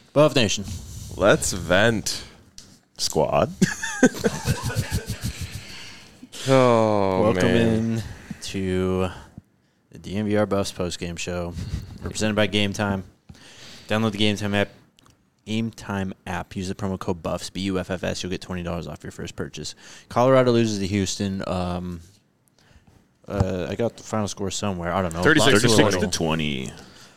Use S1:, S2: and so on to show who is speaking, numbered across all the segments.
S1: Buff Nation.
S2: Let's vent.
S3: Squad.
S1: Welcome
S2: man.
S1: in to the DNVR Buffs postgame show, represented by Game Time. Download the Game Time app. Game Time app. Use the promo code BUFFS, BUFFS. You'll get $20 off your first purchase. Colorado loses to Houston. I got the final score somewhere. I don't know.
S3: 36-20.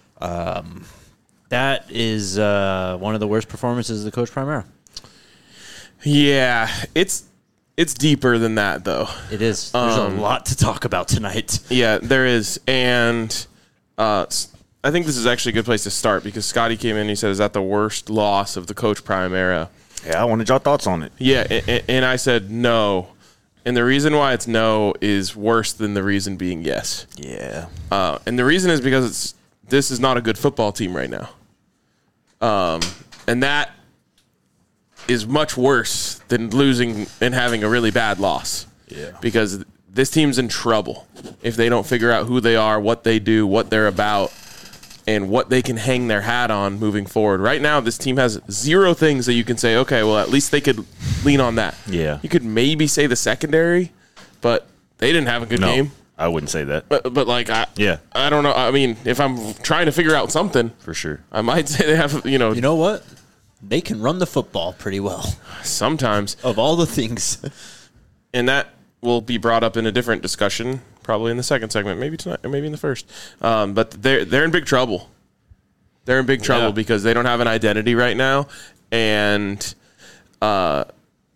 S1: That is one of the worst performances of the Coach Primera.
S2: Yeah, it's deeper than that, though.
S1: It is. There's a lot to talk about tonight.
S2: Yeah, there is. And I think this is actually a good place to start because Scotty came in and he said, is that the worst loss of the Coach Primera?
S3: Yeah, I wanted your thoughts on it.
S2: Yeah, and I said no. And the reason why it's no is worse than the reason being yes.
S3: Yeah.
S2: And the reason is because this is not a good football team right now. And that is much worse than losing and having a really bad loss.
S3: Yeah.
S2: Because this team's in trouble if they don't figure out who they are, what they do, what they're about, and what they can hang their hat on moving forward. Right now, this team has zero things that you can say, okay, well, at least they could lean on that.
S3: Yeah.
S2: You could maybe say the secondary, but they didn't have a good game.
S3: I wouldn't say that.
S2: But like, I don't know. I mean, if I'm trying to figure out something,
S3: For sure.
S2: I might say they have,
S1: You know what? They can run the football pretty well.
S2: sometimes.
S1: Of all the things.
S2: And that will be brought up in a different discussion, probably in the second segment, maybe tonight, or maybe in the first. But they're in big trouble. They're in big trouble because they don't have an identity right now, and that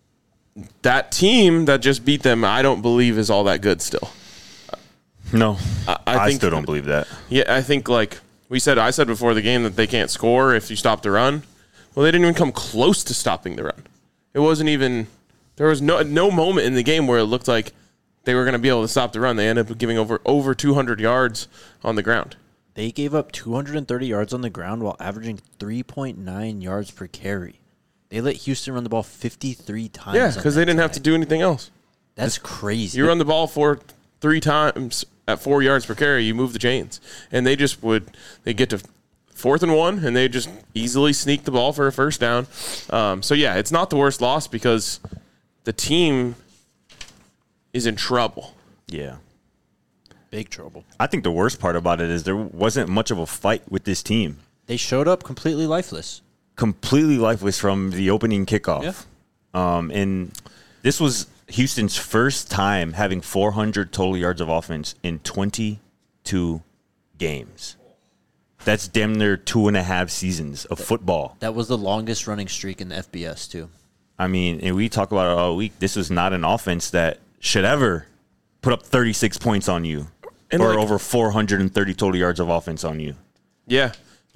S2: team that just beat them, I don't believe is all that good still.
S3: No.
S2: I think,
S3: still don't believe that.
S2: Yeah, I think like I said before the game that they can't score if you stop the run. Well, they didn't even come close to stopping the run. It wasn't even. There was no moment in the game where it looked like they were going to be able to stop the run. They ended up giving over 200 yards on the ground.
S1: They gave up 230 yards on the ground while averaging 3.9 yards per carry. They let Houston run the ball 53 times.
S2: Yeah, because they didn't have to do anything else.
S1: That's crazy.
S2: You run the ball for 3 times at 4 yards per carry, you move the chains. And they just they get to 4th and 1, and they just easily sneak the ball for a first down. So, yeah, it's not the worst loss because the team is in trouble.
S3: Yeah.
S1: Big trouble.
S3: I think the worst part about it is there wasn't much of a fight with this team.
S1: They showed up completely lifeless.
S3: Completely lifeless from the opening kickoff.
S1: Yeah.
S3: And this was Houston's first time having 400 total yards of offense in 22 games. That's damn near 2.5 seasons of football.
S1: That was the longest running streak in the FBS, too.
S3: I mean, and we talk about it all week. This is not an offense that should ever put up 36 points on you or over 430 total yards of offense on you.
S2: Yeah.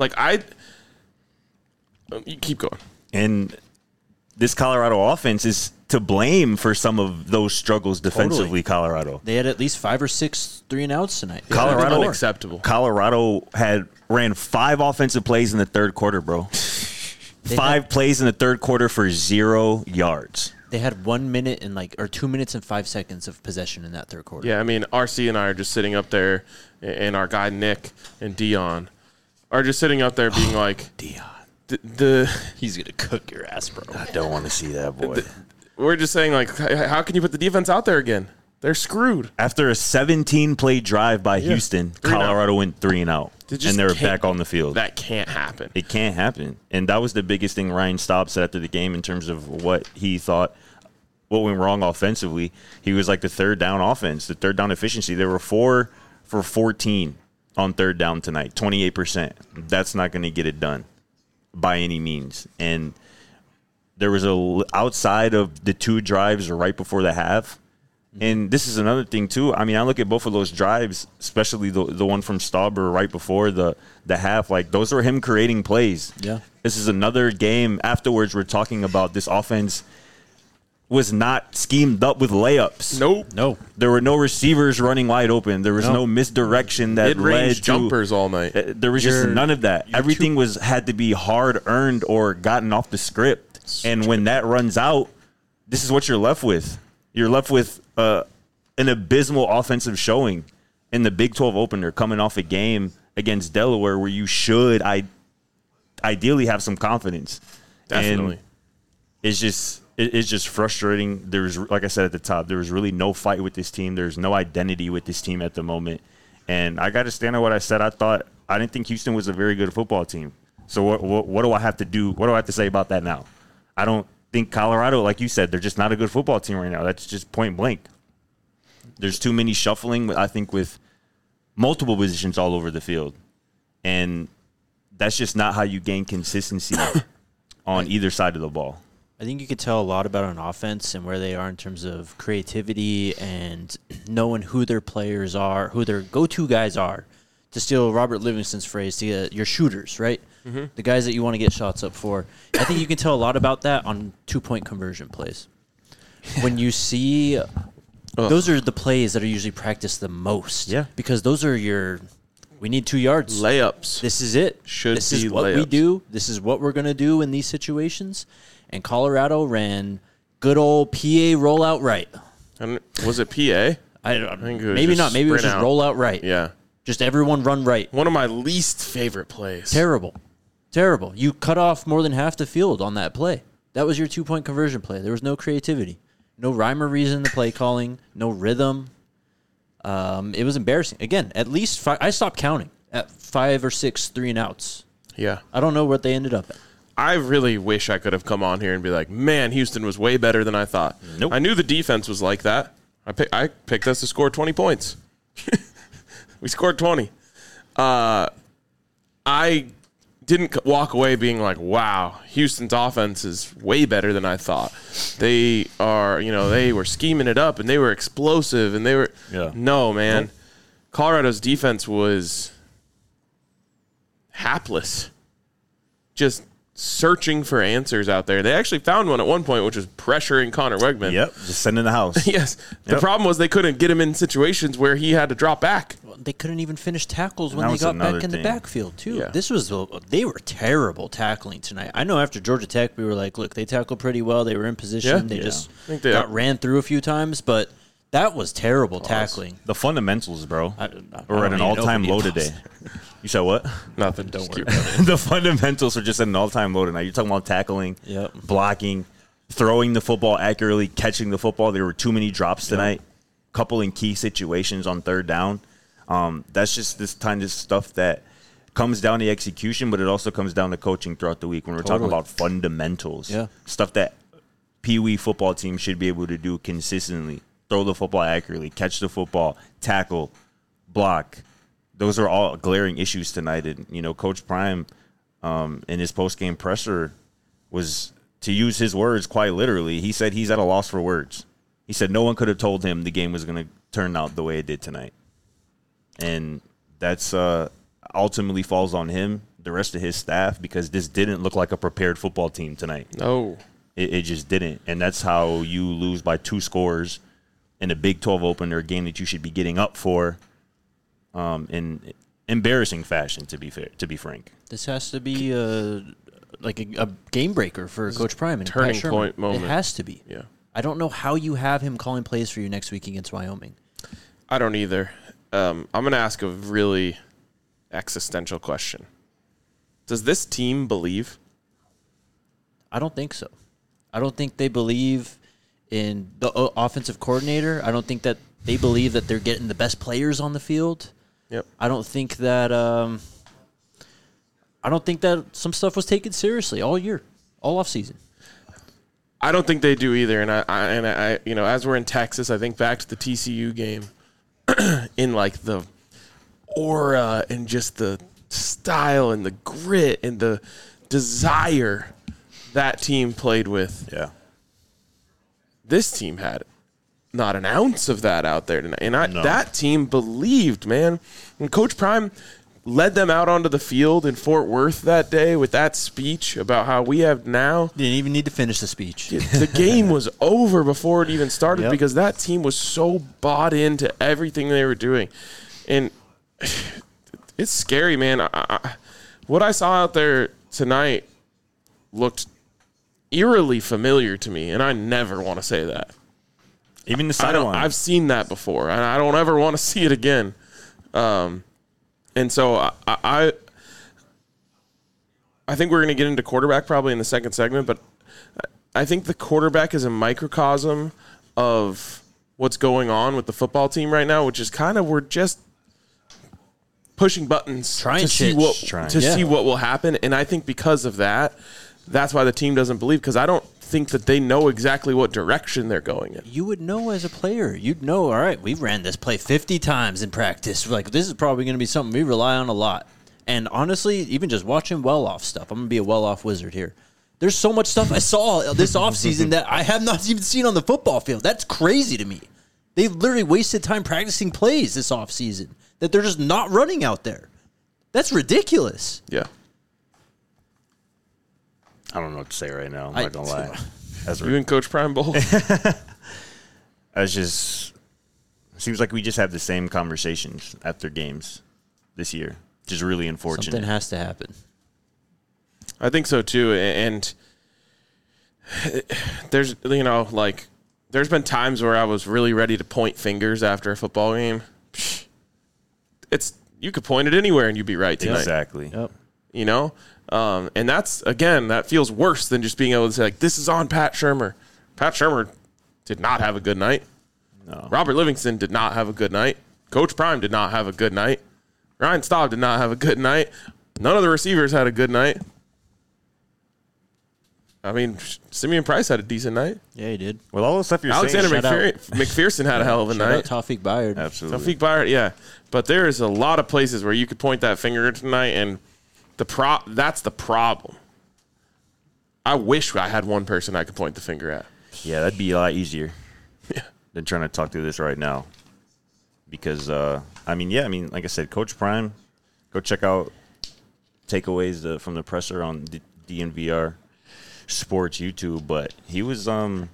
S2: You keep going.
S3: And this Colorado offense is to blame for some of those struggles defensively,
S1: Totally.
S3: Colorado.
S1: They had at least 5 or 6 3-and-outs tonight.
S3: Colorado
S2: unacceptable.
S3: Colorado ran 5 offensive plays in the third quarter, bro. 5 plays in the third quarter for 0 yards.
S1: They had 1 minute and 2 minutes and 5 seconds of possession in that third quarter.
S2: Yeah, I mean, RC and I are just sitting up there, and our guy Nick and Dion are just sitting up there being like,
S3: Dion.
S1: He's going to cook your ass, bro.
S3: I don't want to see that, boy.
S2: We're just saying, like, how can you put the defense out there again? They're screwed.
S3: After a 17-play drive by Houston,
S2: 3 and out.
S3: Colorado went 3 and out, and they were back on the field.
S2: That can't happen.
S3: It can't happen. And that was the biggest thing Ryan Staub said after the game in terms of what he thought, what went wrong offensively. He was like the third down offense, the third down efficiency. They were 4 for 14 on third down tonight, 28%. That's not going to get it done by any means. And there was outside of the 2 drives right before the half. And this is another thing, too. I mean, I look at both of those drives, especially the one from Stauber right before the half. Like, those were him creating plays.
S1: Yeah.
S3: This is another game. Afterwards, we're talking about this offense was not schemed up with layups.
S2: Nope.
S1: No.
S3: There were no receivers running wide open. There was no misdirection that led
S2: Mid-range
S3: to
S2: jumpers all night.
S3: There was just none of that. Everything had to be hard earned or gotten off the script. And when that runs out, this is what you're left with. You're left with an abysmal offensive showing in the Big 12 opener, coming off a game against Delaware where you should ideally have some confidence.
S2: Definitely.
S3: And it's just frustrating. There's, like I said at the top, there was really no fight with this team. There's no identity with this team at the moment. And I got to stand on what I said. I didn't think Houston was a very good football team. So what do I have to do? What do I have to say about that now? I don't think Colorado, like you said, they're just not a good football team right now. That's just point blank. There's too many shuffling, I think, with multiple positions all over the field. And that's just not how you gain consistency on either side of the ball.
S1: I think you could tell a lot about an offense and where they are in terms of creativity and knowing who their players are, who their go-to guys are. To steal Robert Livingston's phrase, to get your shooters, right? Mm-hmm. The guys that you want to get shots up for. I think you can tell a lot about that on 2-point conversion plays. When you see those are the plays that are usually practiced the most.
S3: Yeah.
S1: Because those are we need 2 yards.
S2: Layups.
S1: This is it. This is what we do. This is what we're going to do in these situations. And Colorado ran good old PA rollout right.
S2: And was it PA?
S1: I think maybe not. Maybe it was just rollout right.
S2: Yeah.
S1: Just everyone run right.
S2: One of my least favorite plays.
S1: Terrible. You cut off more than half the field on that play. That was your 2-point conversion play. There was no creativity. No rhyme or reason in the play calling. No rhythm. It was embarrassing. Again, at least I stopped counting at 5 or 6 3-and-outs.
S2: Yeah.
S1: I don't know what they ended up at.
S2: I really wish I could have come on here and be like, man, Houston was way better than I thought.
S3: Nope.
S2: I knew the defense was like that. I picked us to score 20 points. We scored 20. I didn't walk away being like, wow, Houston's offense is way better than I thought. They were scheming it up and they were explosive and they were No, man. Nope. Colorado's defense was hapless. Just searching for answers out there. They actually found one at one point, which was pressuring Connor Wegman.
S3: Yep, just send in the house.
S2: Yes. The problem was they couldn't get him in situations where he had to drop back.
S1: Well, they couldn't even finish tackles when they got back in the backfield, too. Yeah. They were terrible tackling tonight. I know after Georgia Tech, we were like, look, they tackled pretty well. They were in position.
S2: Yeah.
S1: They just got ran through a few times, but that was terrible tackling.
S3: The fundamentals, bro. We're at an all-time low today. You said what?
S2: Nothing. Don't worry
S3: about it. The fundamentals are just at an all-time low tonight. You're talking about tackling, blocking, throwing the football accurately, catching the football. There were too many drops tonight. Couple in key situations on third down. That's just this kind of stuff that comes down to execution, but it also comes down to coaching throughout the week when we're talking about fundamentals. Yeah. Stuff that Pee Wee football teams should be able to do consistently. Throw the football accurately, catch the football, tackle, block. Those are all glaring issues tonight. And, Coach Prime in his post-game presser was, to use his words quite literally, he said he's at a loss for words. He said no one could have told him the game was going to turn out the way it did tonight. And that's ultimately falls on him, the rest of his staff, because this didn't look like a prepared football team tonight.
S2: No.
S3: It just didn't. And that's how you lose by 2 scores in a Big 12 opener, a game that you should be getting up for. In embarrassing fashion, to be frank.
S1: This has to be a game breaker for Coach Prime and
S2: turning
S1: Pat Sherman.
S2: Point moment.
S1: It has to be.
S2: Yeah.
S1: I don't know how you have him calling plays for you next week against Wyoming.
S2: I don't either. I'm going to ask a really existential question. Does this team believe?
S1: I don't think so. I don't think they believe in the offensive coordinator. I don't think that they believe that they're getting the best players on the field.
S2: Yep.
S1: I don't think that some stuff was taken seriously all year, all off season.
S2: I don't think they do either. And I as we're in Texas, I think back to the TCU game in like the aura and just the style and the grit and the desire that team played with.
S3: Yeah.
S2: This team had not an ounce of that out there tonight. And that team believed, man. And Coach Prime led them out onto the field in Fort Worth that day with that speech about how we have now.
S1: Didn't even need to finish the speech.
S2: The game was over before it even started because that team was so bought into everything they were doing. And it's scary, man. What I saw out there tonight looked eerily familiar to me, and I never want to say that.
S3: Even the sideline.
S2: I've seen that before, and I don't ever want to see it again. And so I I think we're going to get into quarterback probably in the second segment, but I think the quarterback is a microcosm of what's going on with the football team right now, which is kind of we're just pushing buttons to see what will happen. And I think because of that, that's why the team doesn't believe, because I don't think that they know exactly what direction they're going in.
S1: You would know as a player. You'd know, all right, we ran this play 50 times in practice. Like, this is probably going to be something we rely on a lot. And honestly, even just watching well-off stuff, I'm going to be a well-off wizard here. There's so much stuff I saw this offseason that I have not even seen on the football field. That's crazy to me. They literally wasted time practicing plays this offseason that they're just not running out there. That's ridiculous.
S2: Yeah.
S3: I don't know what to say right now. I'm not going to lie.
S2: You and Coach Prime both?
S3: Seems like we just have the same conversations after games this year, which is really unfortunate.
S1: Something has to happen.
S2: I think so too. And there's, there's been times where I was really ready to point fingers after a football game. You could point it anywhere and you'd be right tonight.
S3: Exactly.
S1: Yep.
S2: And that's, again, that feels worse than just being able to say, like, this is on Pat Shurmur. Pat Shurmur did not have a good night.
S3: No.
S2: Robert Livingston did not have a good night. Coach Prime did not have a good night. Ryan Staub did not have a good night. None of the receivers had a good night. I mean, Simeon Price had a decent night.
S1: Yeah, he did.
S3: Well, all the stuff you're
S2: Alexander
S3: saying.
S2: McPherson had a hell of a night.
S1: Shout out Tawfiq Bayard.
S3: Absolutely.
S2: Tawfiq Bayard, yeah. But there is a lot of places where you could point that finger tonight, and that's the problem. I wish I had one person I could point the finger at.
S3: Yeah, that'd be a lot easier than trying to talk through this right now. Because, like I said, Coach Prime, go check out takeaways from the presser on DNVR Sports YouTube. But he was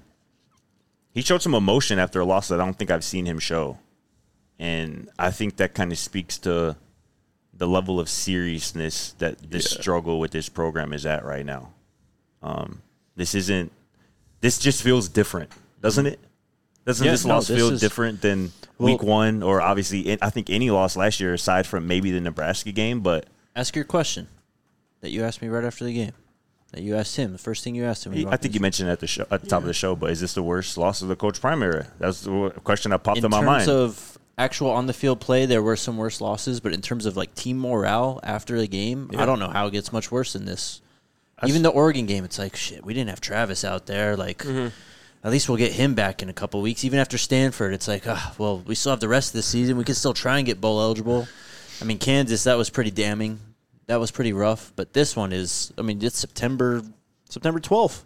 S3: he showed some emotion after a loss that I don't think I've seen him show. And I think that kind of speaks to the level of seriousness that this struggle with this program is at right now. This just feels different, doesn't it? Doesn't this loss feel different than week one, or obviously I think any loss last year aside from maybe the Nebraska game? But
S1: ask your question that you asked me right after the game, that you asked him, the first thing you asked him.
S3: I think you mentioned at the top of the show, but is this the worst loss of the Coach Prime era? That's the question that popped in my mind.
S1: In terms of actual on-the-field play, there were some worse losses, but in terms of like team morale after the game, I don't know how it gets much worse than this. Even the Oregon game, it's like, shit, we didn't have Travis out there. Like, at least we'll get him back in a couple weeks. Even after Stanford, it's like, well, we still have the rest of the season. We can still try and get bowl eligible. I mean, Kansas, that was pretty damning. That was pretty rough. But this one is, it's September 12th.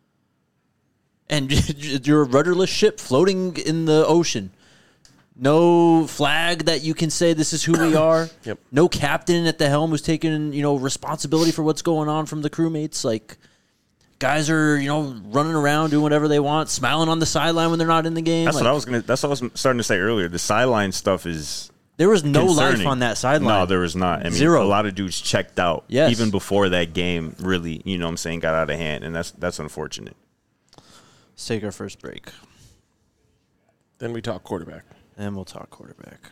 S1: And you're a rudderless ship floating in the ocean. No flag that you can say this is who we are.
S2: Yep.
S1: No captain at the helm who's taking, responsibility for what's going on from the crewmates. Like, guys are, running around doing whatever they want, smiling on the sideline when they're not in the game.
S3: That's what I was starting to say earlier. The sideline stuff is
S1: there was no
S3: concerning.
S1: life on that sideline.
S3: No, there was not.
S1: Zero.
S3: A lot of dudes checked out.
S1: Yes.
S3: Even before that game really, got out of hand, and that's unfortunate.
S1: Let's take our first break.
S2: Then we talk quarterback.
S1: And we'll talk quarterback.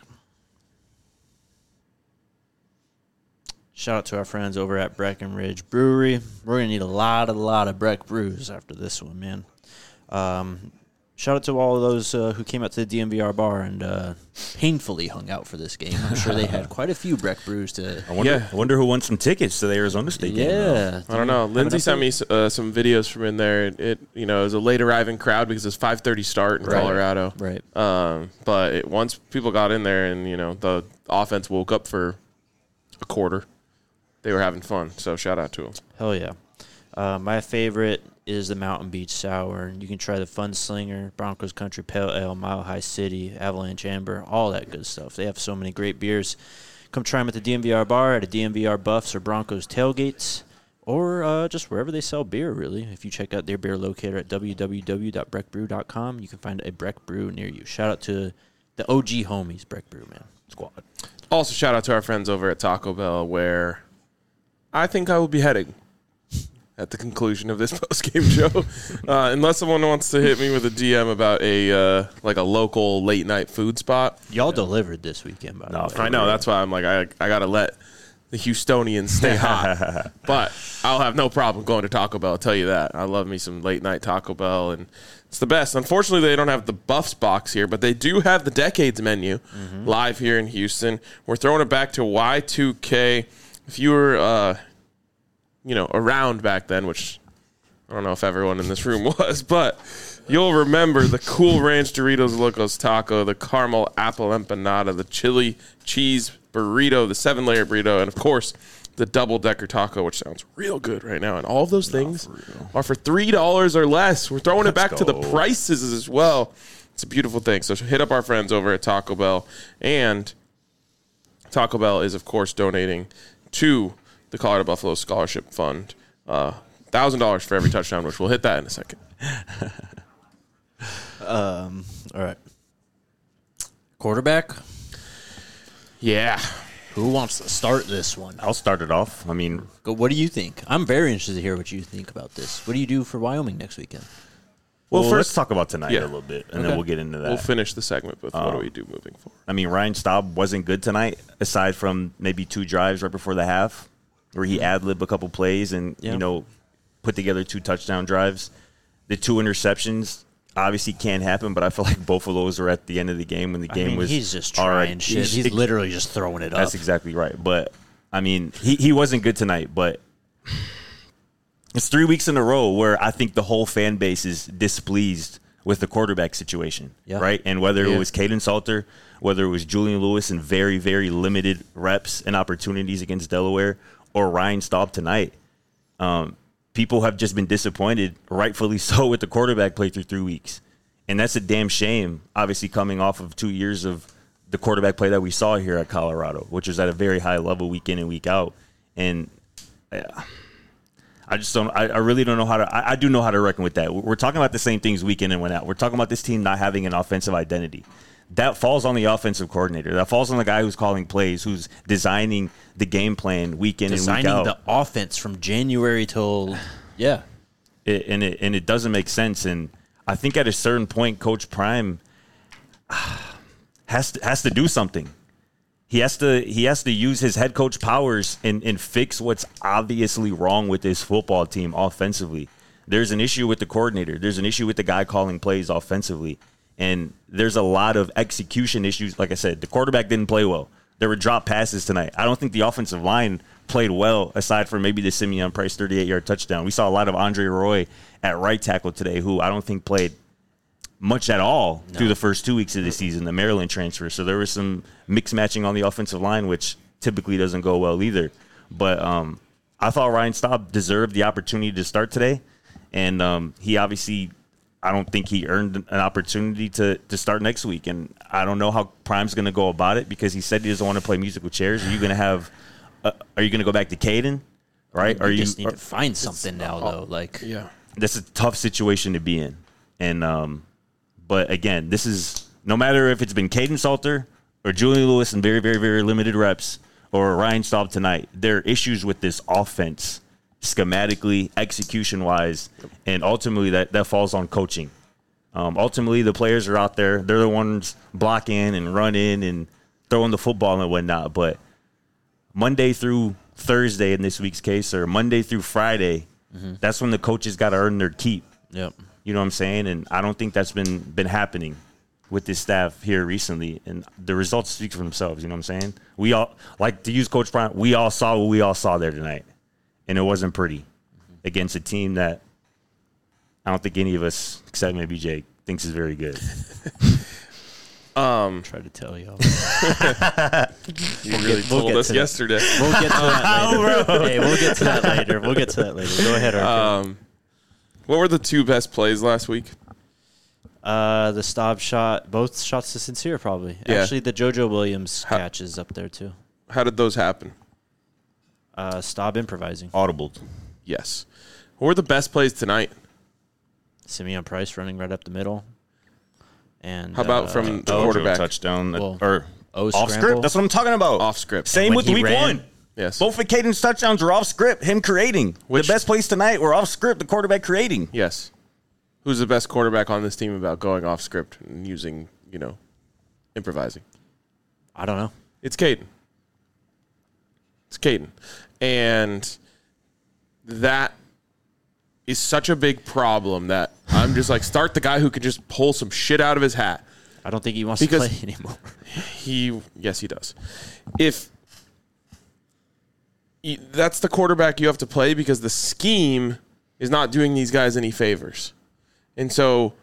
S1: Shout out to our friends over at Breckenridge Brewery. We're going to need a lot of Breck brews after this one, man. Shout out to all of those who came out to the DNVR bar and painfully hung out for this game. I'm sure they had quite a few Breck brews to...
S3: I wonder who won some tickets to the Arizona State game.
S1: Yeah.
S2: I don't know. Lindsay sent me some videos from in there. It was a late arriving crowd because it's 5:30 start in Colorado.
S1: Right.
S2: But once people got in there and, the offense woke up for a quarter, they were having fun. So shout out to them.
S1: Hell yeah. My favorite is the Mountain Beach Sour. You can try the Fun Slinger, Broncos Country Pale Ale, Mile High City, Avalanche Amber, all that good stuff. They have so many great beers. Come try them at the DNVR bar, at a DNVR Buffs or Broncos Tailgates, or just wherever they sell beer, really. If you check out their beer locator at www.breckbrew.com, you can find a Breck Brew near you. Shout out to the OG homies, Breck Brew, man. Squad.
S2: Also, shout out to our friends over at Taco Bell, where I think I will be heading at the conclusion of this post-game show, unless someone wants to hit me with a DM about a local late-night food spot.
S1: Y'all delivered this weekend, by the way.
S2: I know. That's why I'm like, I got to let the Houstonians stay hot. But I'll have no problem going to Taco Bell, I'll tell you that. I love me some late-night Taco Bell, and it's the best. Unfortunately, they don't have the Buffs box here, but they do have the Decades menu live here in Houston. We're throwing it back to Y2K. If you were, around back then, which I don't know if everyone in this room was, but you'll remember the Cool Ranch Doritos Locos Taco, the Caramel Apple Empanada, the Chili Cheese Burrito, the 7-layer burrito, and, of course, the double-decker taco, which sounds real good right now. And all of those things are for $3 or less. We're throwing it back to the prices as well. It's a beautiful thing. So hit up our friends over at Taco Bell. And Taco Bell is, of course, donating to the Colorado Buffalo Scholarship Fund. $1,000 for every touchdown, which we'll hit that in a second.
S1: All right. Quarterback?
S2: Yeah.
S1: Who wants to start this one?
S3: I'll start it off. I mean,
S1: What do you think? I'm very interested to hear what you think about this. What do you do for Wyoming next weekend?
S3: well,
S2: first-
S3: let's talk about tonight
S2: yeah.
S3: a little bit, and
S2: Okay.
S3: then we'll get into that.
S2: We'll finish the segment with what do we do moving forward.
S3: I mean, Ryan Staub wasn't good tonight, aside from maybe 2 drives right before the half, where he ad-libbed a couple plays and, put together 2 touchdown drives. The 2 interceptions obviously can't happen, but I feel like both of those were at the end of the game when the game was
S1: he's just
S3: all
S1: trying
S3: right.
S1: shit. He's literally just throwing it up.
S3: That's exactly right. But, I mean, he wasn't good tonight, but it's 3 weeks in a row where I think the whole fan base is displeased with the quarterback situation, right? And whether it was Caden Salter, whether it was Julian Lewis in very, very limited reps and opportunities against Delaware, or Ryan Staub tonight, people have just been disappointed, rightfully so, with the quarterback play through 3 weeks. And that's a damn shame, obviously coming off of 2 years of the quarterback play that we saw here at Colorado, which was at a very high level week in and week out. And I just don't. I really don't know how to. I do know how to reckon with that. We're talking about the same things week in and week out. We're talking about this team not having an offensive identity. That falls on the offensive coordinator. That falls on the guy who's calling plays, who's designing the game plan week in and week out.
S1: Designing the offense from January till
S3: It doesn't make sense. And I think at a certain point, Coach Prime has to do something. He has to use his head coach powers and fix what's obviously wrong with this football team offensively. There's an issue with the coordinator. There's an issue with the guy calling plays offensively. And there's a lot of execution issues. Like I said, the quarterback didn't play well. There were drop passes tonight. I don't think the offensive line played well, aside from maybe the Simeon Price 38-yard touchdown. We saw a lot of Andre Roy at right tackle today, who I don't think played much at all through the first 2 weeks of the season, the Maryland transfer. So there was some mix matching on the offensive line, which typically doesn't go well either. But I thought Ryan Staub deserved the opportunity to start today. And he obviously, I don't think he earned an opportunity to start next week. And I don't know how Prime's going to go about it, because he said he doesn't want to play musical chairs. Are you going to go back to Caden? Right?
S1: you just need to find something now, though.
S3: That's a tough situation to be in. And but again, this is no matter if it's been Caden Salter or Julian Lewis in very, very, very limited reps, or Ryan Staub tonight, there are issues with this offense schematically, execution-wise, and ultimately that falls on coaching. Ultimately, the players are out there. They're the ones blocking and running and throwing the football and whatnot. But Monday through Thursday in this week's case, or Monday through Friday, that's when the coaches got to earn their keep.
S1: Yep.
S3: You know what I'm saying? And I don't think that's been happening with this staff here recently. And the results speak for themselves. You know what I'm saying? We all, like to use Coach Prime, we all saw what we all saw there tonight. And it wasn't pretty against a team that I don't think any of us, except maybe Jake, thinks is very good.
S1: Tried to tell y'all.
S2: You really told us yesterday.
S1: We'll get to that later. Hey, we'll get to that later. Go ahead, Arthur.
S2: What were the 2 best plays last week?
S1: The Staub shot, both shots to Sincere, probably.
S2: Yeah.
S1: Actually, the JoJo Williams catch is up there, too.
S2: How did those happen?
S1: Staub improvising.
S3: Audible.
S2: Yes. What were the best plays tonight?
S1: Simeon Price running right up the middle. And
S2: How about from the quarterback?
S3: Touchdown.
S1: Well,
S3: or off
S1: scramble?
S3: script? That's what I'm talking about.
S2: Off script.
S3: Same
S1: when
S3: with
S1: he
S3: week
S1: ran-
S3: 1.
S2: Yes.
S3: Both of Caden's touchdowns were off script, him creating. The best plays tonight were off script, the quarterback creating.
S2: Yes. Who's the best quarterback on this team about going off script and using, improvising?
S1: I don't know.
S2: It's Caden. It's Caden. And that is such a big problem that I'm just like, start the guy who can just pull some shit out of his hat.
S1: I don't think he wants to play anymore.
S2: Yes, he does. That's the quarterback you have to play because the scheme is not doing these guys any favors. And so,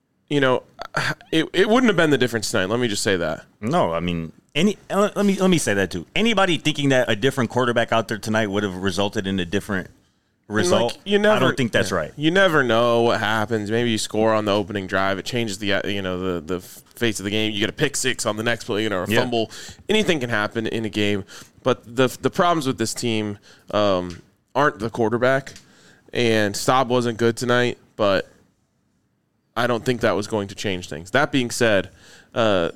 S2: it wouldn't have been the difference tonight. Let me just say that.
S3: No, I mean, let me say that too. Anybody thinking that a different quarterback out there tonight would have resulted in a different result, I don't think that's right.
S2: You never know what happens. Maybe you score on the opening drive. It changes the face of the game. You get a pick six on the next play, or a fumble. Anything can happen in a game. But the problems with this team aren't the quarterback. And Staub wasn't good tonight, but I don't think that was going to change things. That being said, the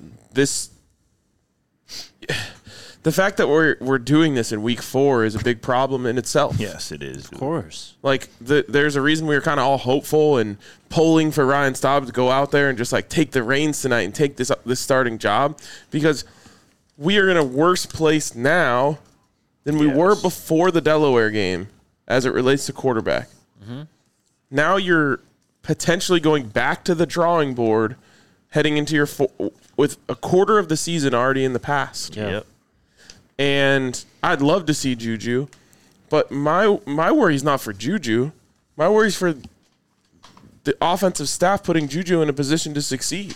S2: fact that we're doing this in week 4 is a big problem in itself.
S3: Yes, it is.
S1: Of course.
S2: Like there's a reason we were kind of all hopeful and polling for Ryan Staub to go out there and just like take the reins tonight and take this starting job, because we are in a worse place now than we were before the Delaware game as it relates to quarterback. Mm-hmm. Now you're potentially going back to the drawing board, heading into your with a quarter of the season already in the past.
S3: Yep.
S2: And I'd love to see Juju, but my worry is not for Juju. My worry is for the offensive staff putting Juju in a position to succeed.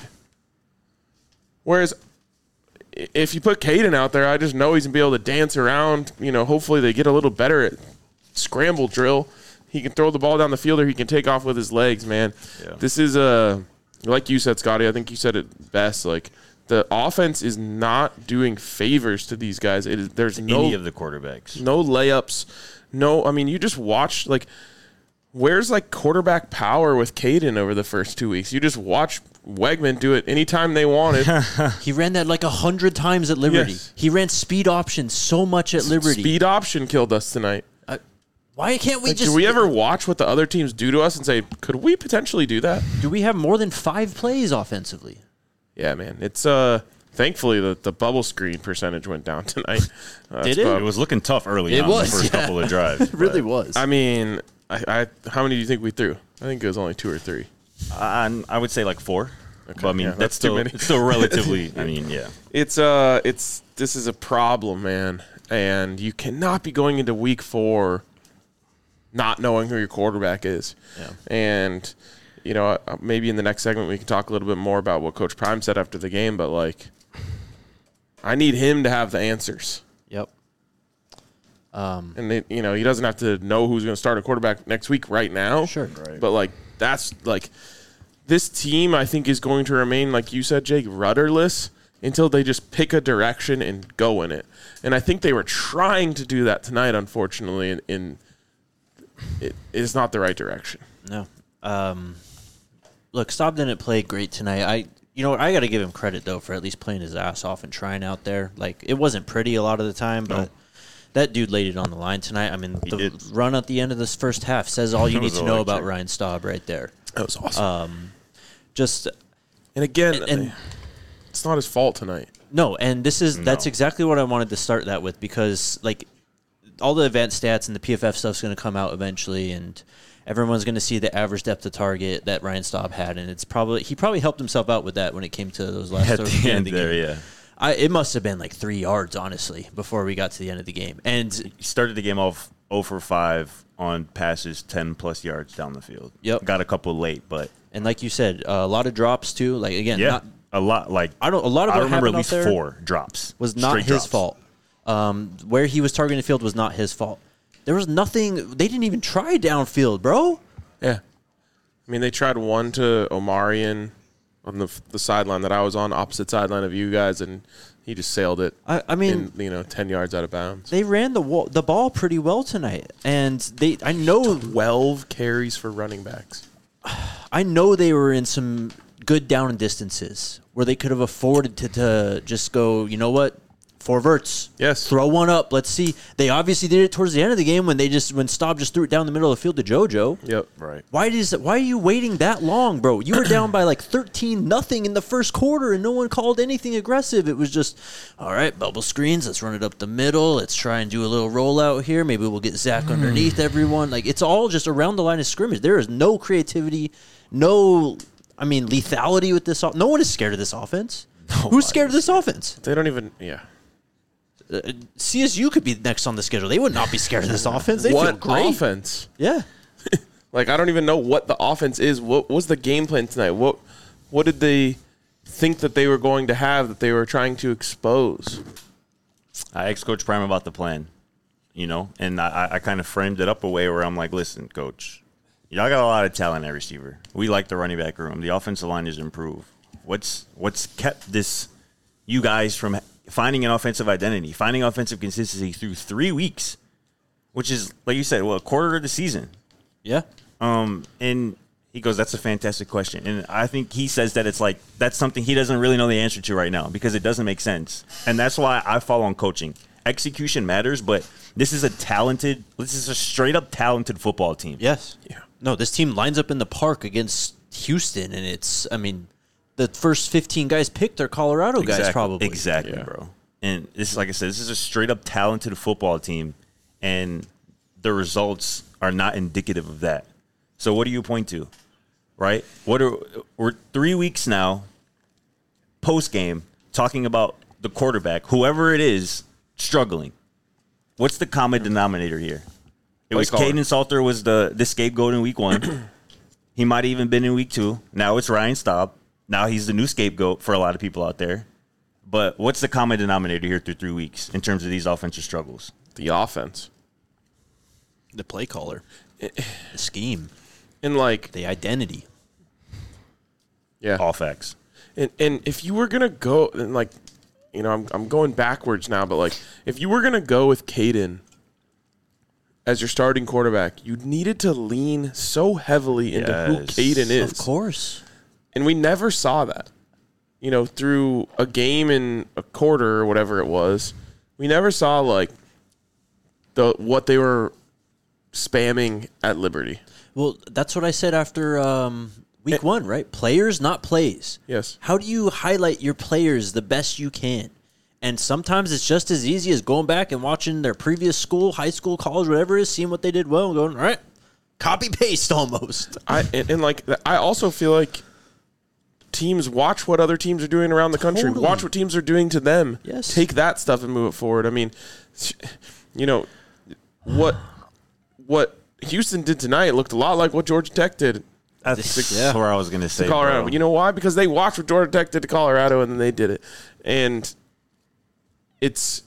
S2: Whereas if you put Caden out there, I just know he's going to be able to dance around. Hopefully they get a little better at scramble drill. He can throw the ball down the field or he can take off with his legs, man. Yeah. This is like you said, Scotty, I think you said it best. Like, the offense is not doing favors to these guys. There's
S3: any of the quarterbacks.
S2: No layups. No, I mean, you just watch, like, where's, like, quarterback power with Caden over the first 2 weeks? You just watch Wegman do it anytime they wanted.
S1: He ran that like 100 times at Liberty. Yes. He ran speed option so much at Liberty.
S2: Speed option killed us tonight.
S1: Why can't we
S2: do we ever watch what the other teams do to us and say, could we potentially do that?
S1: Do we have more than 5 plays offensively?
S2: Yeah, man. It's thankfully the bubble screen percentage went down tonight.
S1: Did it?
S3: It was looking tough early on the first couple of drives.
S1: It really was.
S2: I mean, I how many do you think we threw? I think it was only 2 or 3.
S3: I would say like 4. Okay, but I mean, that's
S2: too many.
S3: It's still relatively. I mean, yeah.
S2: This is a problem, man, and you cannot be going into week 4 not knowing who your quarterback is. Yeah. And maybe in the next segment we can talk a little bit more about what Coach Prime said after the game, but like, I need him to have the answers.
S1: Yep.
S2: And he doesn't have to know who's going to start a quarterback next week right now.
S1: Sure. Right.
S2: But like, that's like, this team I think is going to remain, like you said, Jake, rudderless until they just pick a direction and go in it. And I think they were trying to do that tonight, unfortunately, and it is not the right direction.
S1: No. Look, Staub didn't play great tonight. I got to give him credit, though, for at least playing his ass off and trying out there. Like, it wasn't pretty a lot of the time, but that dude laid it on the line tonight. I mean, the run at the end of this first half says all you need to know about Ryan Staub right there.
S2: That was awesome.
S1: And
S2: again, it's not his fault tonight.
S1: No, and that's exactly what I wanted to start that with, because, like, all the advanced stats and the PFF stuff's going to come out eventually, and everyone's going to see the average depth of target that Ryan Staub had, and he probably helped himself out with that when it came to those last
S3: at the end there. Yeah,
S1: it must have been like 3 yards, honestly, before we got to the end of the game. And
S3: he started the game off 0 for 5 on passes 10+ yards down the field.
S1: Yep,
S3: got a couple late, but
S1: like you said, a lot of drops too. Like, again,
S3: not a lot. Like
S1: I remember at least
S3: 4 drops
S1: was not his fault. Where he was targeting the field was not his fault. There was nothing. They didn't even try downfield, bro.
S2: Yeah. I mean, they tried one to Omarion on the sideline that I was on, opposite sideline of you guys, and he just sailed it.
S1: I mean,
S2: 10 yards out of bounds.
S1: They ran the ball pretty well tonight, and I know
S2: 12 carries for running backs.
S1: I know they were in some good down and distances where they could have afforded to just go, you know what? 4 verts.
S2: Yes.
S1: Throw one up. Let's see. They obviously did it towards the end of the game when Staub just threw it down the middle of the field to JoJo.
S2: Yep.
S3: Right.
S1: Why are you waiting that long, bro? You were down by like 13-0 in the first quarter, and no one called anything aggressive. It was just, all right, bubble screens. Let's run it up the middle. Let's try and do a little rollout here. Maybe we'll get Zach underneath everyone. Like, it's all just around the line of scrimmage. There is no creativity, lethality with this. No one is scared of this offense. Who's scared of this offense?
S2: They don't even. Yeah.
S1: CSU could be next on the schedule. They would not be scared of this offense. They feel
S2: What
S1: great.
S2: offense?
S1: Yeah.
S2: Like, I don't even know what the offense is. What was the game plan tonight? What did they think that they were going to have that they were trying to expose?
S3: I asked Coach Prime about the plan, and I kind of framed it up a way where I'm like, listen, Coach, y'all got a lot of talent at receiver. We like the running back room. The offensive line is improved. What's kept you guys from finding an offensive identity, finding offensive consistency through 3 weeks, which is, like you said, a quarter of the season?
S1: Yeah.
S3: And he goes, that's a fantastic question. And I think he says that it's like, that's something he doesn't really know the answer to right now because it doesn't make sense. And that's why I fall on coaching. Execution matters, but this is a straight up talented football team.
S1: Yes.
S2: Yeah.
S1: No, this team lines up in the park against Houston, and the first 15 guys picked are Colorado guys, probably.
S3: Exactly,
S2: Yeah.
S3: bro. And this is, like I said, this is a straight up talented football team, and the results are not indicative of that. So what do you point to, right? We're 3 weeks now, post game, talking about the quarterback, whoever it is, struggling. What's the common denominator here? It was Caden Salter was the scapegoat in week 1. He might have even been in week 2. Now it's Ryan Staub. Now he's the new scapegoat for a lot of people out there. But what's the common denominator here through 3 weeks in terms of these offensive struggles?
S2: The offense.
S1: The play caller. The scheme.
S2: And, like,
S1: The identity.
S2: yeah.
S3: All facts.
S2: And if you were going to go, and, like, I'm going backwards now, but, like, if you were going to go with Caden as your starting quarterback, you needed to lean so heavily into who
S3: Yes.
S2: Caden is.
S1: Of course.
S2: And we never saw that. Through a game in a quarter or whatever it was, we never saw, like, what they were spamming at Liberty.
S1: Well, that's what I said after week 1, right? Players, not plays.
S2: Yes.
S1: How do you highlight your players the best you can? And sometimes it's just as easy as going back and watching their previous school, high school, college, whatever it is, seeing what they did well and going, all right, copy-paste almost.
S2: I also feel like teams watch what other teams are doing around the country.
S1: Totally.
S2: Watch what teams are doing to them.
S1: Yes.
S2: Take that stuff and move it forward. I mean, what Houston did tonight looked a lot like what Georgia Tech did
S3: That's
S1: Yeah.
S3: where I was going to say,
S2: to Colorado.
S3: bro.
S2: But you know why? Because they watched what Georgia Tech did to Colorado, and then they did it. And it's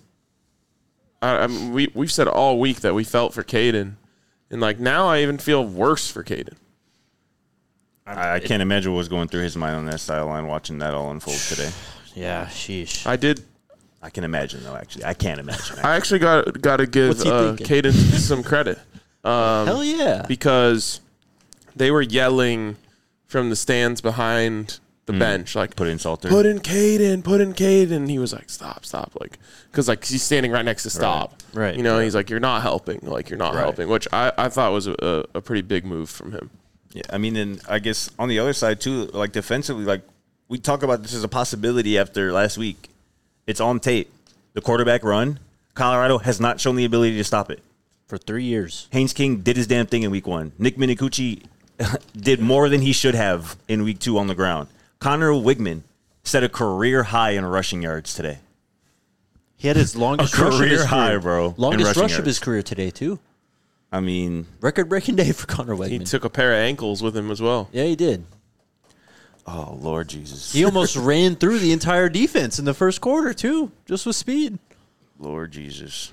S2: we've said all week that we felt for Caden, and like now I even feel worse for Caden.
S3: I can't imagine what was going through his mind on that sideline watching that all unfold today.
S1: Yeah, sheesh.
S3: I can imagine, though, actually. I can't imagine.
S2: I actually got to give
S1: What's he thinking?
S2: Caden some credit.
S1: Hell yeah.
S2: Because they were yelling from the stands behind the bench, like,
S3: Put in Salter.
S2: put in Caden. And he was like, stop. Like, because like he's standing right next to Stop.
S1: Right.
S2: He's like, you're not helping. Like, you're not helping, which I thought was a pretty big move from him.
S3: Yeah, I mean, and I guess on the other side, too, like defensively, like we talk about this as a possibility after last week. It's on tape. The quarterback run, Colorado has not shown the ability to stop it.
S1: For 3 years.
S3: Haynes King did his damn thing in week 1. Nick Minicucci did more than he should have in week 2 on the ground. Connor Wigman set a career high in rushing yards today.
S1: He had his longest
S3: A
S1: rush of his
S3: career high,
S1: career.
S3: bro, in
S1: Longest
S3: rushing
S1: rush of
S3: yards.
S1: his career today, too.
S3: I mean,
S1: Record-breaking day for Connor
S2: He
S1: Wegman.
S2: took a pair of ankles with him as well.
S1: Yeah, he did.
S3: oh, Lord Jesus.
S1: He almost ran through the entire defense in the first quarter, too, just with speed.
S3: Lord Jesus.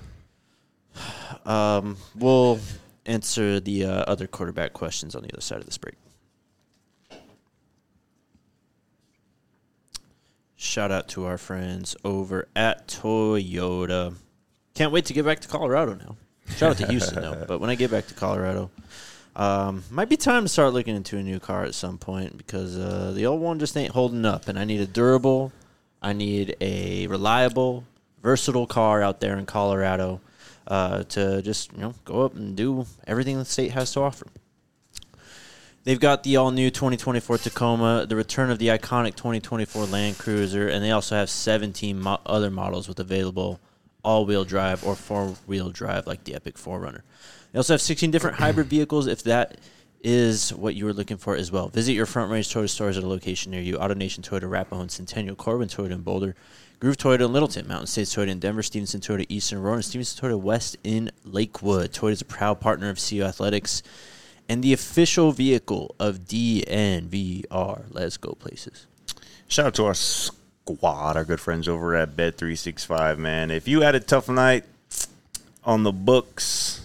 S1: We'll answer the other quarterback questions on the other side of this break. Shout out to our friends over at Toyota. Can't wait to get back to Colorado now. Shout out to Houston, though. But when I get back to Colorado, might be time to start looking into a new car at some point because the old one just ain't holding up. And I need a durable, I need a reliable, versatile car out there in Colorado to just go up and do everything the state has to offer. They've got the all-new 2024 Tacoma, the return of the iconic 2024 Land Cruiser, and they also have 17 other models with available all-wheel drive or four-wheel drive like the Epic 4Runner. They also have 16 different hybrid vehicles if that is what you were looking for as well. Visit your Front Range Toyota stores at a location near you. AutoNation Toyota, Arapahoe and Centennial, Corbin Toyota in Boulder, Groove Toyota in Littleton, Mountain States Toyota in Denver, Stevenson Toyota East in Aurora, and Stevenson Toyota West in Lakewood. Toyota is a proud partner of CU Athletics and the official vehicle of DNVR. Let's go places.
S3: Shout out to our squad, our good friends over at Bet365, man. If you had a tough night on the books,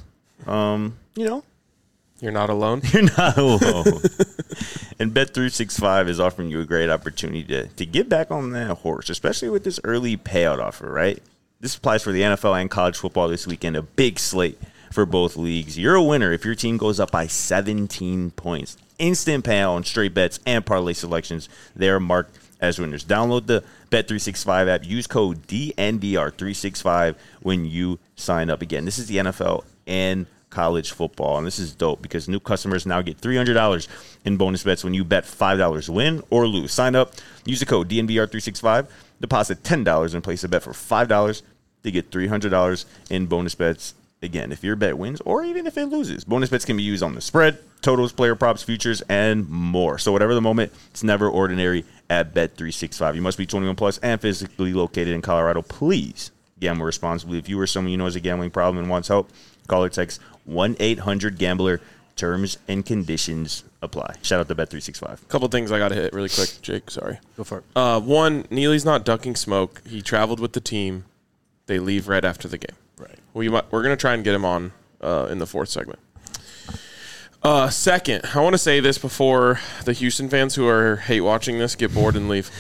S2: You're not alone.
S3: you're not alone. And Bet365 is offering you a great opportunity to get back on that horse, especially with this early payout offer, right? This applies for the NFL and college football this weekend, a big slate for both leagues. You're a winner if your team goes up by 17 points. Instant payout on straight bets and parlay selections. They're marked as winners. Download the Bet365 app. Use code DNVR365 when you sign up. Again, this is the NFL and college football, and this is dope because new customers now get $300 in bonus bets when you bet $5 win or lose. Sign up, use the code DNVR365, deposit $10 and place a bet for $5 to get $300 in bonus bets. Again, if your bet wins or even if it loses, bonus bets can be used on the spread, totals, player props, futures, and more. So whatever the moment, it's never ordinary at Bet365. You must be 21 plus and physically located in Colorado. Please gamble responsibly. If you or someone you know has a gambling problem and wants help, call or text 1-800-GAMBLER. Terms and conditions apply. Shout out to Bet365.
S2: Couple things I got to hit really quick, Jake. Sorry.
S1: Go for it.
S2: One, Neely's not ducking smoke. He traveled with the team. They leave right after the game.
S1: Right.
S2: We're going to try and get him on in the fourth segment. Second, I want to say this before the Houston fans who are hate watching this get bored and leave.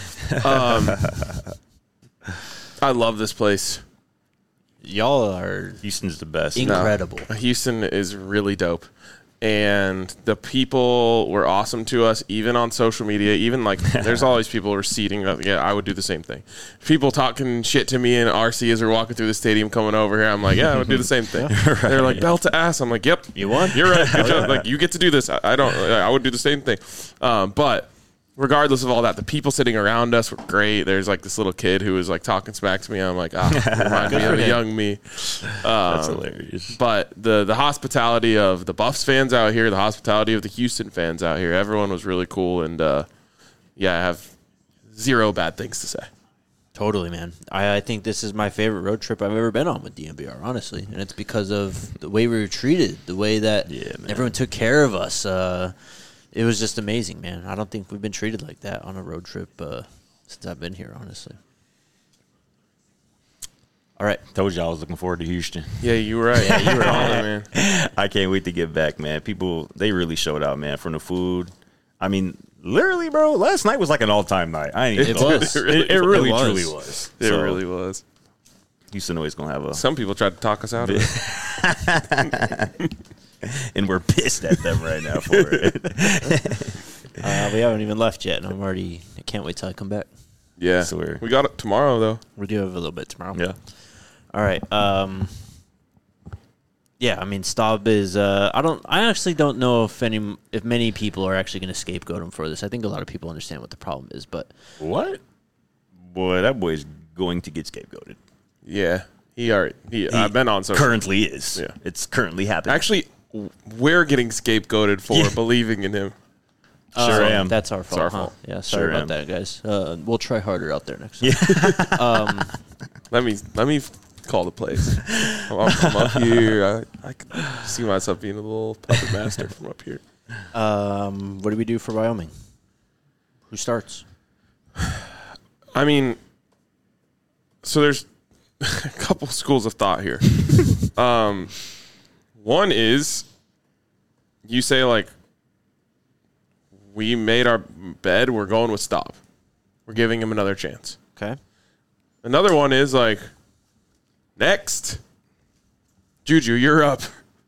S2: I love this place.
S1: Y'all are
S3: Houston's the best.
S1: incredible.
S2: Houston is really dope. And the people were awesome to us, even on social media. Even like, there's always people receding. Yeah, I would do the same thing. People talking shit to me in RC as we're walking through the stadium coming over here. I'm like, yeah, I would do the same thing. Right. They're like, belt to ass. I'm like, yep,
S1: You won?
S2: you're right. Good job. Like, you get to do this. I would do the same thing. But regardless of all that, the people sitting around us were great. There's like this little kid who was like talking smack to me. I'm like, remind me of a young me.
S3: That's hilarious.
S2: But the hospitality of the Buffs fans out here, the hospitality of the Houston fans out here, everyone was really cool. And I have zero bad things to say.
S1: Totally, man. I think this is my favorite road trip I've ever been on with DNVR, honestly. And it's because of the way we were treated, the way that everyone took care of us. It was just amazing, man. I don't think we've been treated like that on a road trip since I've been here, honestly. All right.
S3: Told you I was looking forward to Houston.
S2: Yeah, you were right.
S1: Yeah, you were
S2: on
S1: right.
S2: it, man.
S3: I can't wait to get back, man. People, they really showed out, man, from the food. I mean, literally, bro, last night was like an all-time night. I ain't
S1: It was.
S3: It really,
S1: It was.
S3: truly was.
S2: It
S3: So,
S2: really was.
S3: Houston always going to have a...
S2: Some people tried to talk us out of it.
S3: and we're pissed at them right now for it.
S1: We haven't even left yet, and I can't wait till I come back.
S2: Yeah.
S3: Swear.
S2: We got it tomorrow, though.
S1: We do have a little bit tomorrow.
S3: Yeah.
S1: All right. Yeah, I mean, Staub is. I actually don't know if many people are actually going to scapegoat him for this. I think a lot of people understand what the problem is, but
S3: What? Boy, that boy's going to get scapegoated.
S2: Yeah. I've been on social.
S3: Currently is.
S2: Yeah.
S3: It's currently happening.
S2: Actually, we're getting scapegoated for believing in him.
S3: Sure am.
S1: That's our fault.
S2: our
S1: huh?
S2: fault.
S1: Yeah, sorry
S3: Sure
S1: about
S3: am.
S1: that, guys. We'll try harder out there next time.
S2: Let me call the plays. I'm up here. I can see myself being a little puppet master from up here.
S1: What do we do for Wyoming? Who starts?
S2: I mean, so there's a couple schools of thought here. One is you say, like, we made our bed, we're going with Staub. We're giving him another chance.
S1: Okay.
S2: Another one is, like, next, Juju, you're up.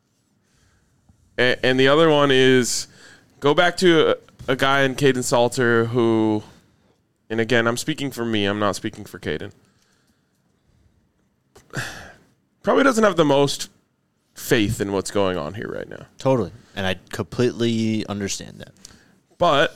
S2: And the other one is go back to a guy in Caden Salter who, and again, I'm speaking for me, I'm not speaking for Caden. probably doesn't have the most faith in what's going on here right now.
S1: Totally. And I completely understand that.
S2: But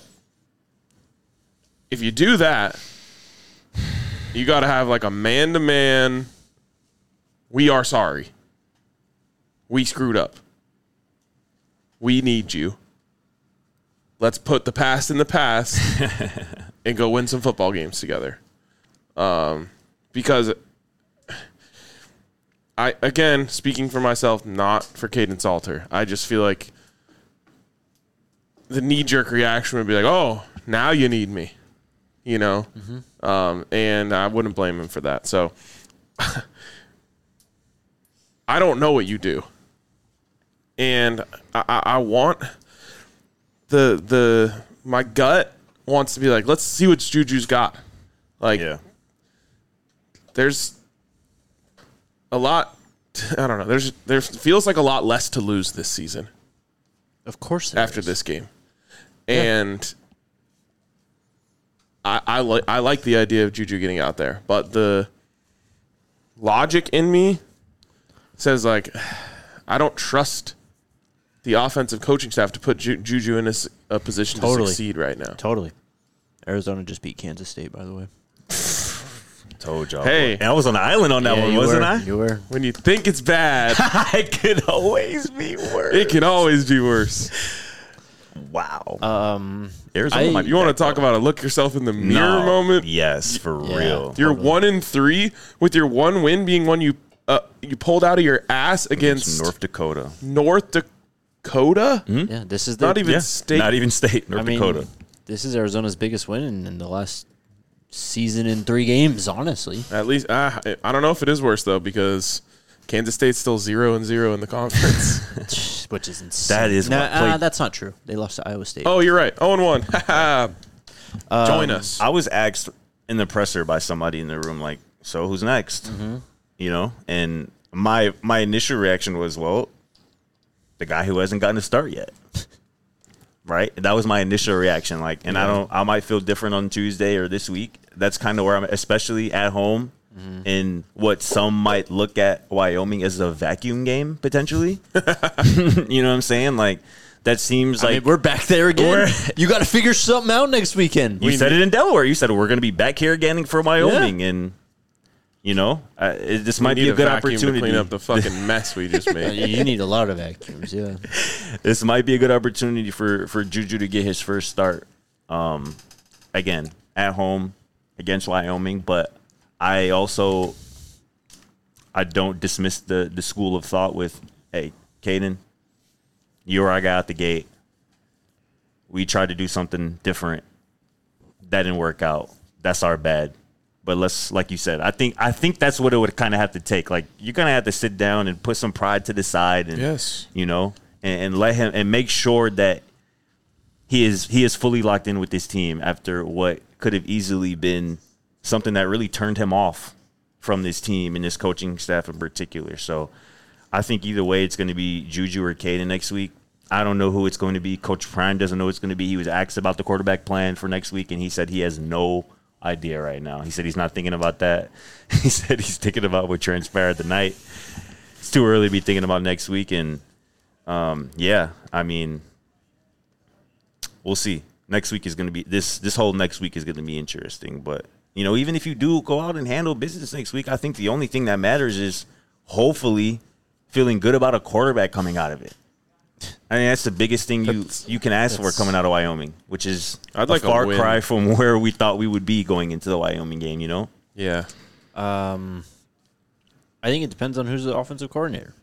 S2: if you do that, you got to have like a man-to-man, we are sorry. We screwed up. We need you. Let's put the past in the past and go win some football games together. Because I, again, speaking for myself, not for Caden Salter, I just feel like the knee-jerk reaction would be like, oh, now you need me, you know? Mm-hmm. And I wouldn't blame him for that. So I don't know what you do. And I want my gut wants to be like, let's see what Juju's got. Like, there's a lot. I don't know. There feels like a lot less to lose this season.
S1: Of course,
S2: after this game, and I like the idea of Juju getting out there, but the logic in me says like, I don't trust the offensive coaching staff to put Juju in a position to succeed right now.
S1: Totally. Arizona just beat Kansas State, by the way.
S3: Told y'all.
S2: Hey.
S3: I was on the island on that one, wasn't I?
S1: You were.
S2: When you think it's bad,
S3: It could always be worse.
S2: it can always be worse.
S3: Wow. Arizona might be
S2: You want to
S3: back,
S2: talk
S3: though.
S2: about a look yourself in the mirror moment?
S3: Yes, for real.
S2: You're 1-3 with your one win being one you pulled out of your ass against
S3: North Dakota.
S2: North Dakota?
S1: Yeah, this is
S2: Not even state.
S3: Not even state. North Dakota.
S1: This is Arizona's biggest win in the last season in 3 games, honestly.
S2: At least I don't know if it is worse though, because Kansas State's still 0-0 in the conference.
S1: Which is insane.
S3: That is what played.
S1: That's not true. They lost to Iowa State.
S2: Oh, you're right. 0-1. Join us.
S3: I was asked in the presser by somebody in the room, like, so who's next?
S1: Mm-hmm.
S3: You know? And my initial reaction was, well, the guy who hasn't gotten a start yet. Right? That was my initial reaction. Like, and I might feel different on Tuesday or this week. That's kind of where I'm at, especially at home in what some might look at Wyoming as a vacuum game, potentially. You know what I'm saying? Like, that seems like
S1: we're back there again. You got to figure something out next weekend.
S3: You said it in Delaware. You said we're going to be back here again for Wyoming, and you know, this might be a good opportunity
S2: to clean up the fucking mess we just made.
S1: You need a lot of vacuums. Yeah,
S3: this might be a good opportunity for Juju to get his first start. Again, at home against Wyoming, but I don't dismiss the school of thought with, hey, Caden, you're our guy out the gate. We tried to do something different. That didn't work out. That's our bad. But let's, like you said, I think that's what it would kind of have to take. Like, you're gonna have to sit down and put some pride to the side, and you know, and let him and make sure that he is fully locked in with this team after what could have easily been something that really turned him off from this team and this coaching staff in particular. So I think either way, it's going to be Juju or Caden next week. I don't know who it's going to be. Coach Prime doesn't know who it's going to be. He was asked about the quarterback plan for next week, and he said he has no idea right now. He said he's not thinking about that. He said he's thinking about what transpired tonight. It's too early to be thinking about next week, and yeah, I mean, we'll see. Next week is going to be this whole next week is going to be interesting. But you know, even if you do go out and handle business next week, I think the only thing that matters is hopefully feeling good about a quarterback coming out of it. I mean, that's the biggest thing you can ask for coming out of Wyoming, which is a far cry from where we thought we would be going into the Wyoming game, you know?
S2: Yeah.
S1: I think it depends on who's the offensive coordinator.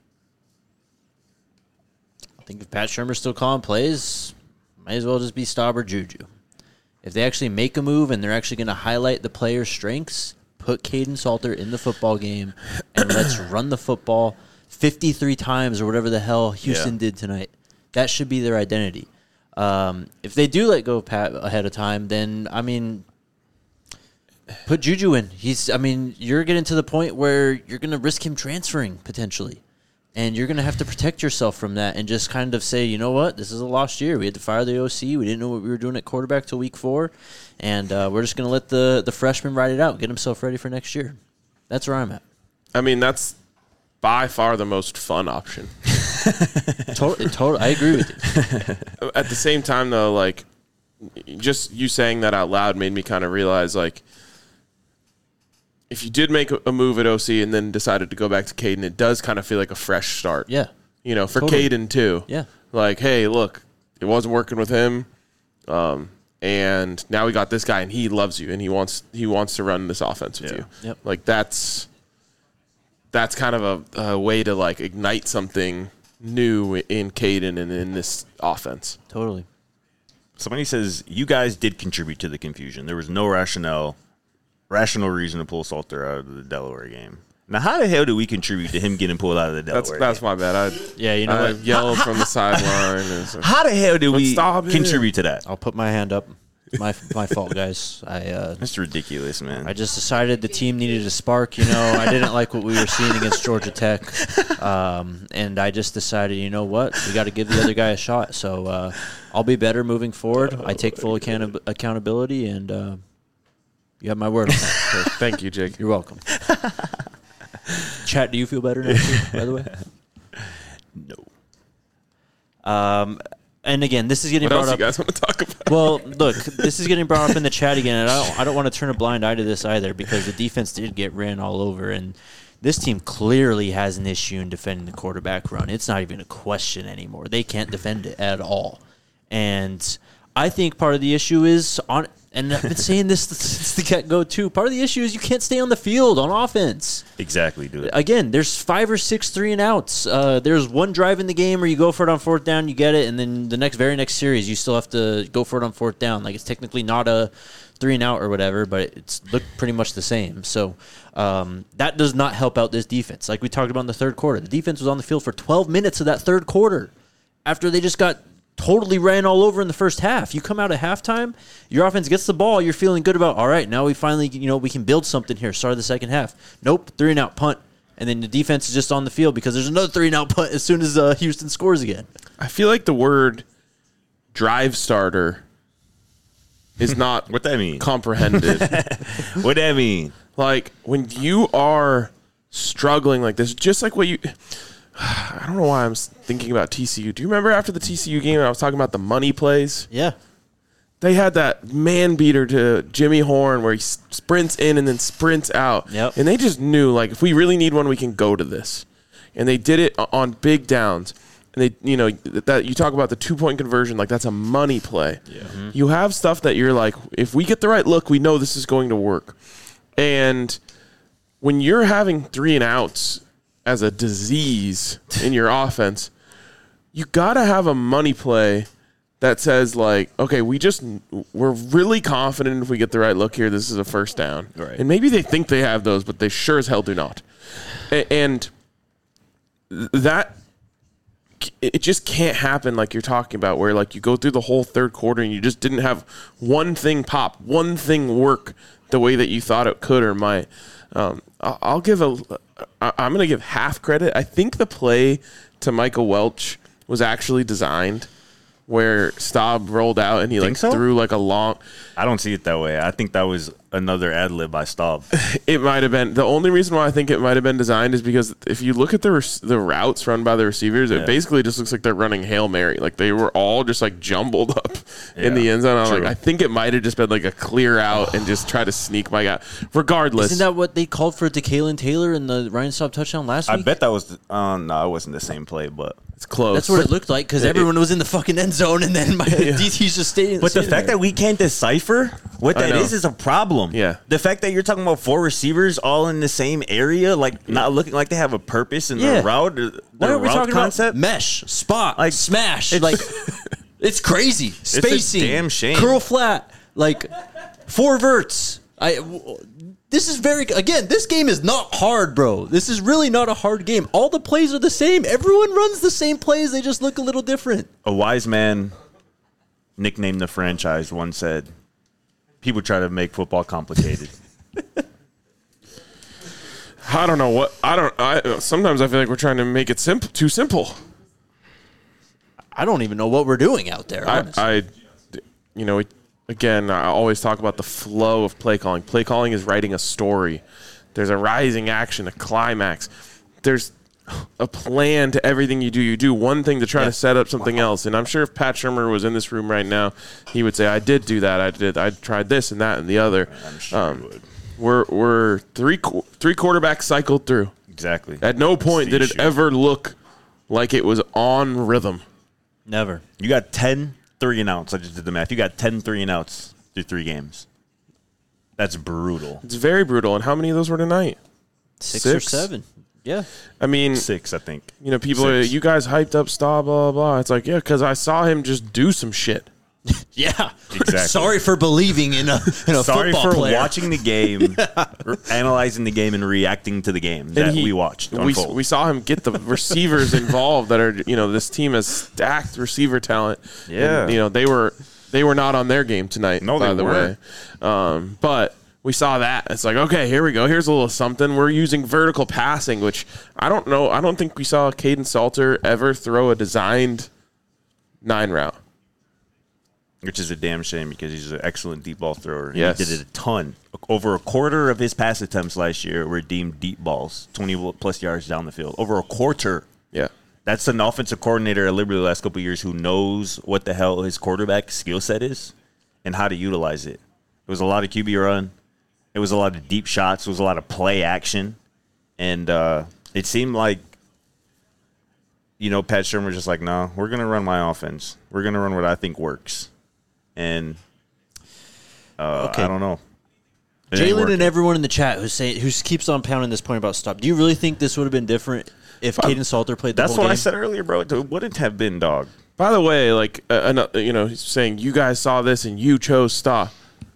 S1: I think if Pat Shurmur's still calling plays, might as well just be Staub or Juju. If they actually make a move and they're actually going to highlight the player's strengths, put Caden Salter in the football game and let's run the football 53 times or whatever the hell Houston did tonight. That should be their identity. If they do let go of Pat ahead of time, then, I mean, put Juju in. You're getting to the point where you're going to risk him transferring potentially. And you're going to have to protect yourself from that and just kind of say, you know what, this is a lost year. We had to fire the OC. We didn't know what we were doing at quarterback till week 4. And we're just going to let the freshman ride it out, get himself ready for next year. That's where I'm at.
S2: I mean, that's by far the most fun option.
S1: Totally, I agree with you.
S2: At the same time, though, like, just you saying that out loud made me kind of realize, like, if you did make a move at OC and then decided to go back to Caden, it does kind of feel like a fresh start.
S1: Yeah.
S2: You know, for
S1: Totally.
S2: Caden, too.
S1: Yeah.
S2: Like, hey, look, it wasn't working with him, and now we got this guy, and he loves you, and he wants to run this offense with you.
S1: Yep.
S2: Like, that's kind of a way to, like, ignite something new in Caden and in this offense.
S1: Totally.
S3: Somebody says, you guys did contribute to the confusion. There was no rational reason to pull Salter out of the Delaware game. Now, how the hell do we contribute to him getting pulled out of the Delaware
S2: That's
S3: game?
S2: my bad.
S1: Yeah, you know
S2: I
S1: what?
S2: yelled from the sideline.
S3: How the hell do we
S2: stop it.
S3: contribute to that?
S1: I'll put my hand up. My fault, guys.
S3: That's ridiculous, man.
S1: I just decided the team needed a spark. You know, I didn't like what we were seeing against Georgia Tech, and I just decided, you know what, we got to give the other guy a shot. So I'll be better moving forward. I take full accountability, and you have my word on that.
S2: Thank you, Jake.
S1: You're welcome. Chat, do you feel better now, too, by the way?
S3: No.
S1: And again, this is getting
S2: What
S1: brought
S2: else
S1: up.
S2: you guys want to talk about?
S1: Well, look, this is getting brought up in the chat again, and I don't want to turn a blind eye to this either because the defense did get ran all over, and this team clearly has an issue in defending the quarterback run. It's not even a question anymore. They can't defend it at all. And I think part of the issue is and I've been saying this since the get-go too, part of the issue is you can't stay on the field on offense.
S3: Exactly, dude.
S1: Again, there's 5 or 6 3-and-outs. There's one drive in the game where you go for it on 4th down, you get it, and then the very next series you still have to go for it on 4th down. Like, it's technically not a 3-and-out or whatever, but it's looked pretty much the same. So that does not help out this defense. Like we talked about in the third quarter, the defense was on the field for 12 minutes of that third quarter after they just got totally ran all over in the first half. You come out at halftime, your offense gets the ball, you're feeling good about, all right, now we finally, we can build something here. Start of the second half. Nope, 3-and-out punt. And then the defense is just on the field because there's another 3-and-out punt as soon as Houston scores again.
S2: I feel like the word drive starter is not
S3: What that mean?
S2: comprehended.
S3: What that mean?
S2: Like, when you are struggling like this, just like what you... I don't know why I'm thinking about TCU. Do you remember after the TCU game I was talking about the money plays?
S1: Yeah.
S2: They had that man beater to Jimmy Horn where he sprints in and then sprints out.
S1: Yep.
S2: And they just knew, like, if we really need one, we can go to this. And they did it on big downs. And they, that you talk about the 2-point conversion, like that's a money play.
S3: Yeah.
S1: Mm-hmm.
S2: You have stuff that you're like, if we get the right look, we know this is going to work. And when you're having 3-and-outs as a disease in your offense, you got to have a money play that says, like, okay, we're really confident if we get the right look here, this is a first down.
S3: Right.
S2: And maybe they think they have those, but they sure as hell do not. And that, it just can't happen like you're talking about, where, like, you go through the whole third quarter and you just didn't have one thing pop, one thing work the way that you thought it could or might. I'm going to give half credit. I think the play to Michael Welch was actually designed where Staub rolled out and he
S3: Think so?
S2: threw like a long.
S3: I don't see it that way. I think that was another ad lib by Staub.
S2: It might have been. The only reason why I think it might have been designed is because if you look at the routes run by the receivers, it basically just looks like they're running Hail Mary. Like they were all just like jumbled up in the end zone. I'm like, I think it might have just been like a clear out and just try to sneak my guy. Regardless.
S1: Isn't that what they called for DeKalen Taylor in the Ryan Staub touchdown last
S3: I
S1: week?
S3: bet that was no, it wasn't the same play, but
S2: it's close.
S1: That's what it looked like because everyone was in the fucking end zone and then my DT's just staying.
S3: But the fact that we can't decipher what that is a problem.
S2: Yeah.
S3: The fact that you're talking about 4 receivers all in the same area, like not looking like they have a purpose in their route,
S1: why
S3: their
S1: are we
S3: route
S1: talking
S3: concept.
S1: about mesh, spot,
S3: Like,
S1: smash? Like it's crazy. Spacing,
S3: damn shame.
S1: curl flat, like 4 verts. This is this game is not hard, bro. This is really not a hard game. All the plays are the same. Everyone runs the same plays. They just look a little different.
S3: A wise man, nicknamed the franchise, once said, "People try to make football complicated."
S2: I don't know what sometimes I feel like we're trying to make it too simple.
S1: I don't even know what we're doing out there. Honestly.
S2: Again, I always talk about the flow of play calling. Play calling is writing a story. There's a rising action, a climax. There's a plan to everything you do. You do one thing to try to set up something else. And I'm sure if Pat Shurmur was in this room right now, he would say, I did do that. I tried this and that and the other.
S3: I'm sure he would.
S2: We're three quarterbacks cycled through.
S3: Exactly.
S2: At no point did it
S3: issue.
S2: ever look like it was on rhythm.
S1: Never.
S3: You got 10 3 and outs. I just did the math. You got 10 3 and outs through 3 games. That's brutal.
S2: It's very brutal. And how many of those were tonight?
S1: 6 or 7. Yeah.
S2: I mean,
S3: 6, I think.
S2: you know, people are,
S3: 6.
S2: you guys hyped up Staub, blah, blah, blah. It's like, yeah, because I saw him just do some shit.
S1: Yeah.
S3: Exactly.
S1: Sorry for believing in a
S3: Sorry
S1: football
S3: for
S1: player.
S3: watching the game, analyzing the game, and reacting to the game that we watched unfold.
S2: We saw him get the receivers involved that are, you know, this team has stacked receiver talent.
S3: Yeah.
S2: And, you know, they were not on their game tonight,
S3: No,
S2: by
S3: they
S2: the way. But we saw that. It's like, okay, here we go. Here's a little something. We're using vertical passing, which I don't know. I don't think we saw Caden Salter ever throw a designed 9 route.
S3: Which is a damn shame because he's an excellent deep ball thrower.
S2: Yes.
S3: He did it a ton. Over a quarter of his pass attempts last year were deemed deep balls, 20-plus yards down the field. Over a quarter.
S2: Yeah.
S3: That's an offensive coordinator at Liberty the last couple of years who knows what the hell his quarterback skill set is and how to utilize it. It was a lot of QB run. It was a lot of deep shots. It was a lot of play action. And it seemed like, you know, Pat Shurmur was just like, no, we're going to run my offense. We're going to run what I think works. And I don't know. It ain't
S1: Jalen
S3: working.
S1: and everyone in the chat who keeps on pounding this point about stop. Do you really think this would have been different if Caden Salter played the
S3: That's
S1: whole
S3: what
S1: game?
S3: I said earlier, bro. It wouldn't have been, dog.
S2: By the way, like, you know, he's saying you guys saw this and you chose stop.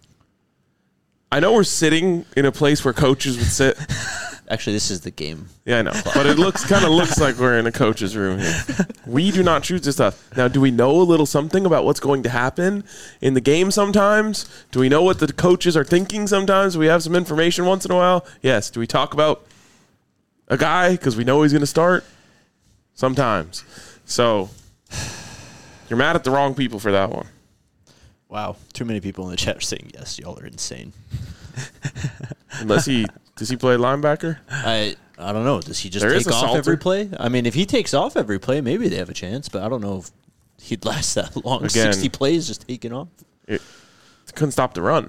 S2: I know we're sitting in a place where coaches would sit.
S1: Actually, this is the game.
S2: Yeah, I know. But it kind of looks like we're in a coach's room here. We do not choose this stuff. Now, do we know a little something about what's going to happen in the game sometimes? Do we know what the coaches are thinking sometimes? Do we have some information once in a while? Yes. Do we talk about a guy because we know he's going to start? Sometimes. So, you're mad at the wrong people for that one.
S1: Wow. Too many people in the chat are saying yes. Y'all are insane.
S2: Unless does he play linebacker?
S1: I don't know. Does he just
S2: There is
S1: take
S2: a
S1: off
S2: Salter.
S1: every play? I mean, if he takes off every play, maybe they have a chance, but I don't know if he'd last that long.
S2: Again,
S1: 60 plays just taking off.
S2: It couldn't stop the run.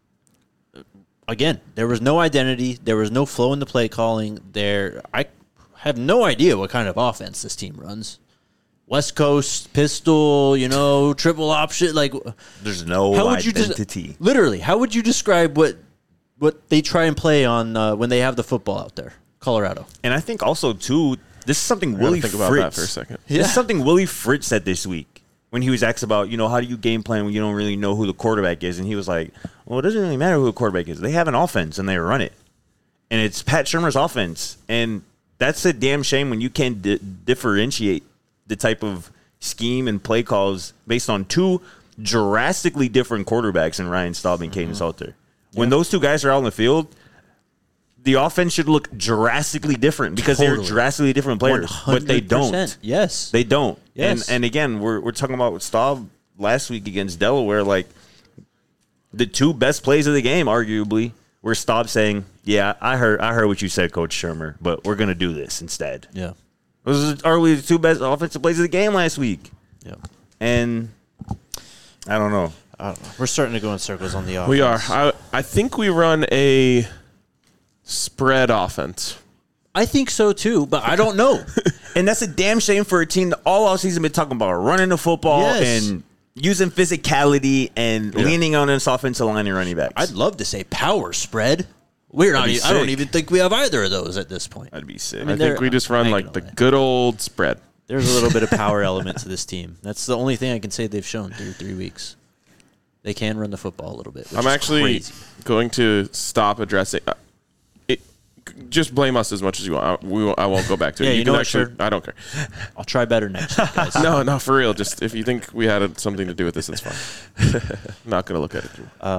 S1: Again, there was no identity. There was no flow in the play calling. I have no idea what kind of offense this team runs. West Coast, pistol, triple option. Like,
S3: There's no
S1: how would
S3: identity.
S1: literally, how would you describe what they try and play on when they have the football out there? Colorado.
S3: And I think also, too, this is something
S2: I gotta
S3: Willie
S2: think
S3: Fritz.
S2: about that for a second.
S3: This is something Willie Fritz said this week when he was asked about, how do you game plan when you don't really know who the quarterback is? And he was like, well, it doesn't really matter who the quarterback is. They have an offense and they run it. And it's Pat Shurmur's offense. And that's a damn shame when you can't differentiate the type of scheme and play calls based on two drastically different quarterbacks in Ryan Staub and Caden Salter. When those two guys are out on the field, the offense should look drastically different because they're drastically different players.
S1: 100%.
S3: But they don't.
S1: Yes.
S3: They don't.
S1: Yes.
S3: And again, we're talking about Staub last week against Delaware. Like, the two best plays of the game, arguably, were Staub saying, yeah, I heard what you said, Coach Shurmur, but we're going to do this instead.
S1: Yeah.
S3: Those are arguably the two best offensive plays of the game last week.
S1: Yeah.
S3: And I don't know.
S1: We're starting to go in circles on the offense.
S2: We are. I think we run a spread offense.
S1: I think so too, but I don't know.
S3: And that's a damn shame for a team that all offseason been talking about running the football and using physicality and leaning on this offensive line and running backs.
S1: I'd love to say power spread. We're not. I don't even think we have either of those at this point.
S3: That'd be sick.
S2: I think we just run like the good old spread.
S1: There's a little bit of power element to this team. That's the only thing I can say they've shown through 3 weeks. They can run the football a little bit. Which
S2: I'm
S1: is
S2: actually
S1: crazy.
S2: going to stop addressing it. Just blame us as much as you want. I won't go back to it.
S1: Yeah, you know what,
S2: actually,
S1: sure.
S2: I don't care.
S1: I'll try better next week, guys.
S2: No, for real. Just if you think we had something to do with this, it's fine. I'm not going to look at it.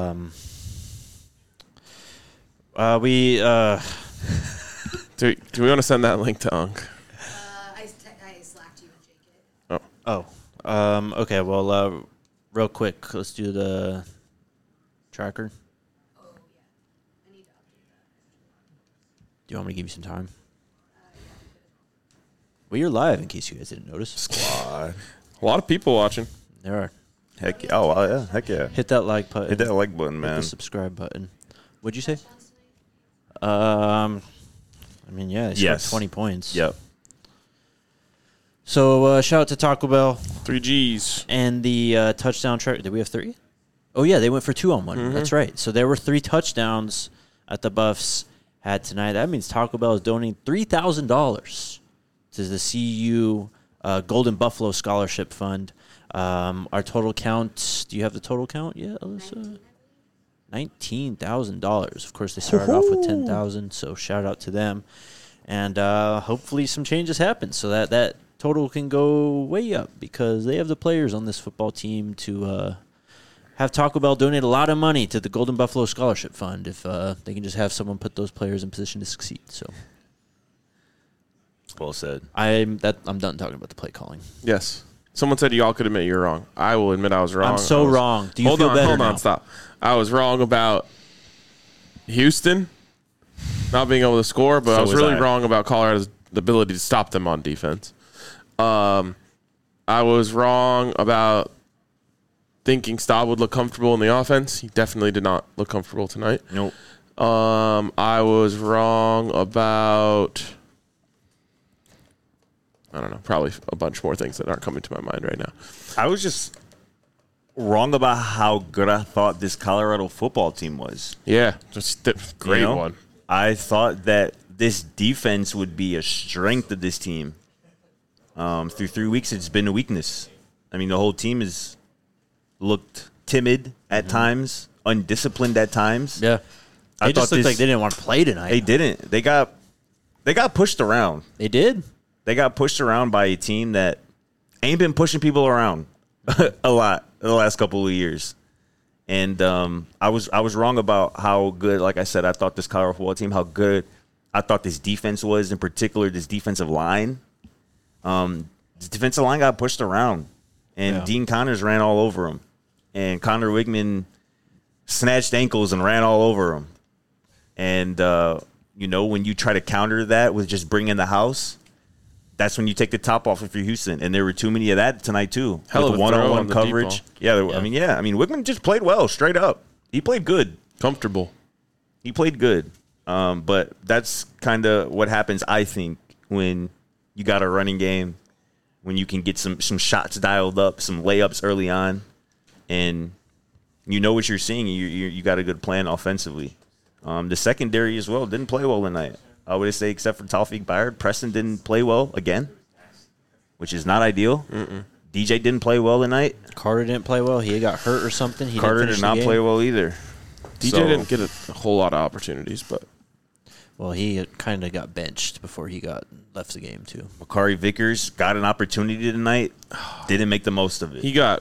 S2: Do we want to send that link to Unk?
S4: I slacked you and Jake it.
S1: Okay, well, real quick, let's do the tracker.
S4: Oh, yeah. I need to update
S1: Do you want me to give you some time? Well, you're live, in case you guys didn't notice.
S3: Squad.
S2: A lot of people watching.
S1: There are.
S3: Heck yeah. Oh, yeah. Heck yeah.
S1: Hit that like button.
S3: Hit that like button,
S1: Hit
S3: man.
S1: the subscribe button. What'd you say? I mean, yeah, they scored
S3: Yes.
S1: 20 points.
S3: Yep.
S1: So, shout out to Taco Bell
S2: 3 Gs.
S1: and the touchdown track. Did we have 3? Oh, yeah, they went for 2 on one.
S2: Mm-hmm.
S1: That's right. So, there were 3 touchdowns that the Buffs had tonight. That means Taco Bell is donating $3,000 to the CU Golden Buffalo Scholarship Fund. Our total count, do you have the total count yet, Alyssa? $19,000. Of course, they started off with $10,000, so shout out to them. And hopefully some changes happen so that total can go way up because they have the players on this football team to have Taco Bell donate a lot of money to the Golden Buffalo Scholarship Fund if they can just have someone put those players in position to succeed. So
S3: Well said.
S1: I'm done talking about the play calling.
S2: Yes. Someone said y'all could admit you're wrong. I will admit I was wrong.
S1: I'm so wrong. Do you
S2: hold
S1: feel
S2: on,
S1: better
S2: hold
S1: now?
S2: on, stop. I was wrong about Houston not being able to score, but
S3: So
S2: I was
S3: was
S2: really
S3: I.
S2: wrong about Colorado's ability to stop them on defense. I was wrong about thinking Staub would look comfortable in the offense. He definitely did not look comfortable tonight.
S3: Nope.
S2: I was wrong about, I don't know, probably a bunch more things that aren't coming to my mind right now.
S3: I was just wrong about how good I thought this Colorado football team was.
S2: Yeah, just great
S3: You know?
S2: one.
S3: I thought that this defense would be a strength of this team. Through 3 weeks, it's been a weakness. I mean, the whole team has looked timid at times, undisciplined at times.
S1: Yeah.
S3: I
S1: They just
S3: thought
S1: looked
S3: this-
S1: like they didn't want to play tonight.
S3: They didn't. They got pushed around.
S1: They did.
S3: They got pushed around by a team that ain't been pushing people around a lot in the last couple of years. And I was wrong about how good, like I said, I thought this Colorado football team, how good I thought this defense was, in particular this defensive line. This defensive line got pushed around, and
S1: Yeah.
S3: Dean Connors ran all over him. And Connor Wigman snatched ankles and ran all over him. And, when you try to counter that with just bringing the house, that's when you take the top off if you're Houston. And there were too many of that tonight, too.
S2: Hell of
S3: with
S2: a throw
S3: one-on-one
S2: on the deep
S3: coverage.
S2: ball.
S3: Yeah. I mean, Wigman just played well, straight up. He played good.
S2: Comfortable.
S3: He played good. But that's kind of what happens, I think, when you got a running game, when you can get some shots dialed up, some layups early on, and you know what you're seeing. You got a good plan offensively. The secondary as well didn't play well tonight. I would say except for Tawfiq Byard. Preston didn't play well again, which is not ideal. DJ didn't play well tonight.
S1: Carter didn't play well. He got hurt or something. He
S3: Carter
S1: didn't
S3: did
S1: finish
S3: not
S1: the game.
S3: play well either.
S2: DJ
S3: So-
S2: didn't get a whole lot of opportunities, but
S1: Well, he kind of got benched before he left the game too.
S3: Makari Vickers got an opportunity tonight, didn't make the most of it.
S2: he got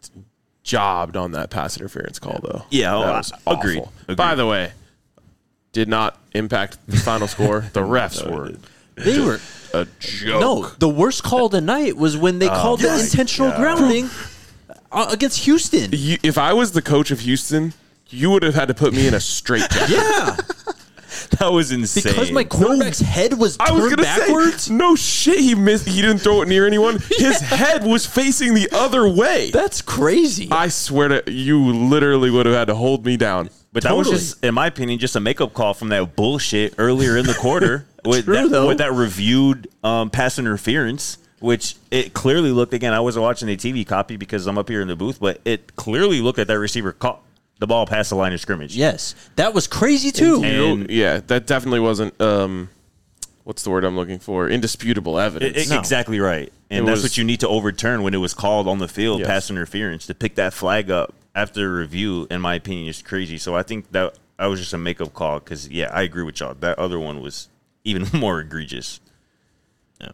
S2: jobbed on that pass interference call, though.
S3: Yeah,
S2: that was
S3: agreed.
S2: awful.
S3: Agreed.
S2: By the way, did not impact the final score. The refs
S3: No, it
S2: were
S3: didn't.
S1: They were
S2: a joke.
S1: no. The worst call of the night was when they called the
S3: my
S1: intentional
S3: God.
S1: grounding against Houston.
S2: If I was the coach of Houston, you would have had to put me in a straight jacket.
S1: Yeah,
S3: That was insane.
S1: because my quarterback's head was
S2: I was
S1: turned
S2: gonna
S1: backwards.
S2: say, no shit, he missed. He didn't throw it near anyone. His head was facing the other way.
S1: That's crazy.
S2: I swear to you, literally would have had to hold me down.
S3: But that was
S1: Totally.
S3: just, in my opinion, just a makeup call from that bullshit earlier in the quarter with,
S1: True, though.
S3: with that reviewed pass interference, which it clearly looked, again, I wasn't watching the TV copy because I'm up here in the booth, but it clearly looked at that receiver caught the ball past the line of scrimmage.
S1: Yes, that was crazy too.
S3: And-
S2: Yeah, that definitely wasn't. What's the word I'm looking for? Indisputable evidence.
S1: No.
S3: Exactly right. And
S2: It
S3: that's
S2: was-
S3: what you need to overturn when it was called on the field,
S2: Yes.
S3: pass interference. To pick that flag up after a review, in my opinion, is crazy. So I think that was just a makeup call because, yeah, I agree with y'all. That other one was even more egregious.
S1: Yeah.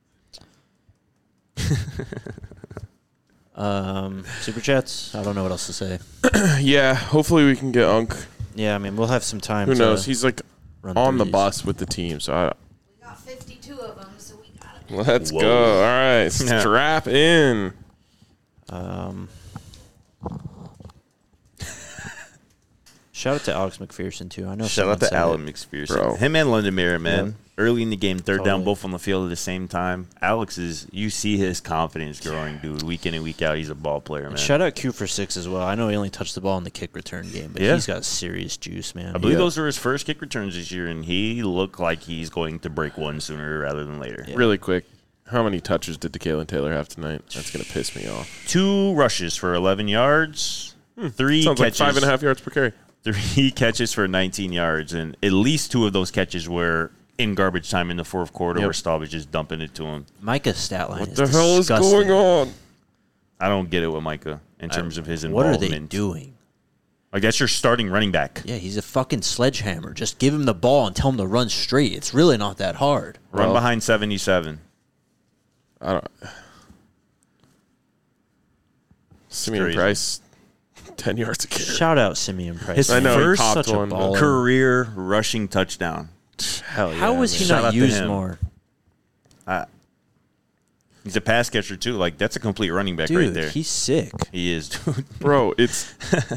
S1: Super chats. I don't know what else to say.
S2: Yeah, hopefully we can get Unk.
S1: Yeah, I mean we'll have some time.
S2: Who
S1: to
S2: knows? He's like
S1: run
S2: on
S1: through
S2: the
S1: these.
S2: bus with the team. So
S4: We got 52 of them, so we got to
S2: let's
S3: Whoa.
S2: go. All right, strap in.
S1: Shout out to Alex McPherson, too. I know.
S3: Shout out to Alan
S1: Allen.
S3: McPherson.
S2: Bro.
S3: Him and London Mira, man.
S1: Yep.
S3: Early in the game, third down,
S1: Totally.
S3: both on the field at the same time. Alex you see his confidence growing, dude. Week in and week out, he's a ball player, man.
S1: Shout out Q for 6 as well. I know he only touched the ball in the kick return game, but
S3: Yeah.
S1: he's got serious juice, man.
S3: I believe
S2: Yeah.
S3: those are his first kick returns this year, and he looked like he's going to break one sooner rather than later.
S1: Yeah.
S2: Really quick, how many touches did DeKalen Taylor have tonight? That's going to piss me off.
S3: 2 rushes for 11 yards, 3
S2: Sounds
S3: catches.
S2: like 5.5 yards per carry.
S3: 3 catches for 19 yards, and at least 2 of those catches were in garbage time in the fourth quarter
S2: Yep.
S3: where Staub is just dumping it to him.
S1: Micah's stat line
S2: What
S1: is
S2: the hell is
S1: disgusting.
S2: going on?
S3: I don't get it with Micah in terms of his
S1: What are
S3: involvement.
S1: they doing?
S3: I guess you're starting running back.
S1: Yeah, he's a fucking sledgehammer. Just give him the ball and tell him to run straight. It's really not that hard.
S3: Run
S2: Well-
S3: behind 77.
S2: I don't. Simeon
S3: crazy.
S2: Price, 10 yards a carry.
S1: Shout out Simeon Price.
S3: His
S1: man.
S2: I know, he
S3: first
S2: popped
S1: such a
S2: one, but-
S1: baller.
S3: Career rushing touchdown.
S2: Hell yeah.
S1: How was he
S2: man.
S3: Shout out
S1: not
S3: to
S1: used
S3: him.
S1: more?
S3: He's a pass catcher, too. Like, that's a complete running back
S1: Dude,
S3: right there.
S1: he's sick.
S3: He is, dude.
S2: Bro, it's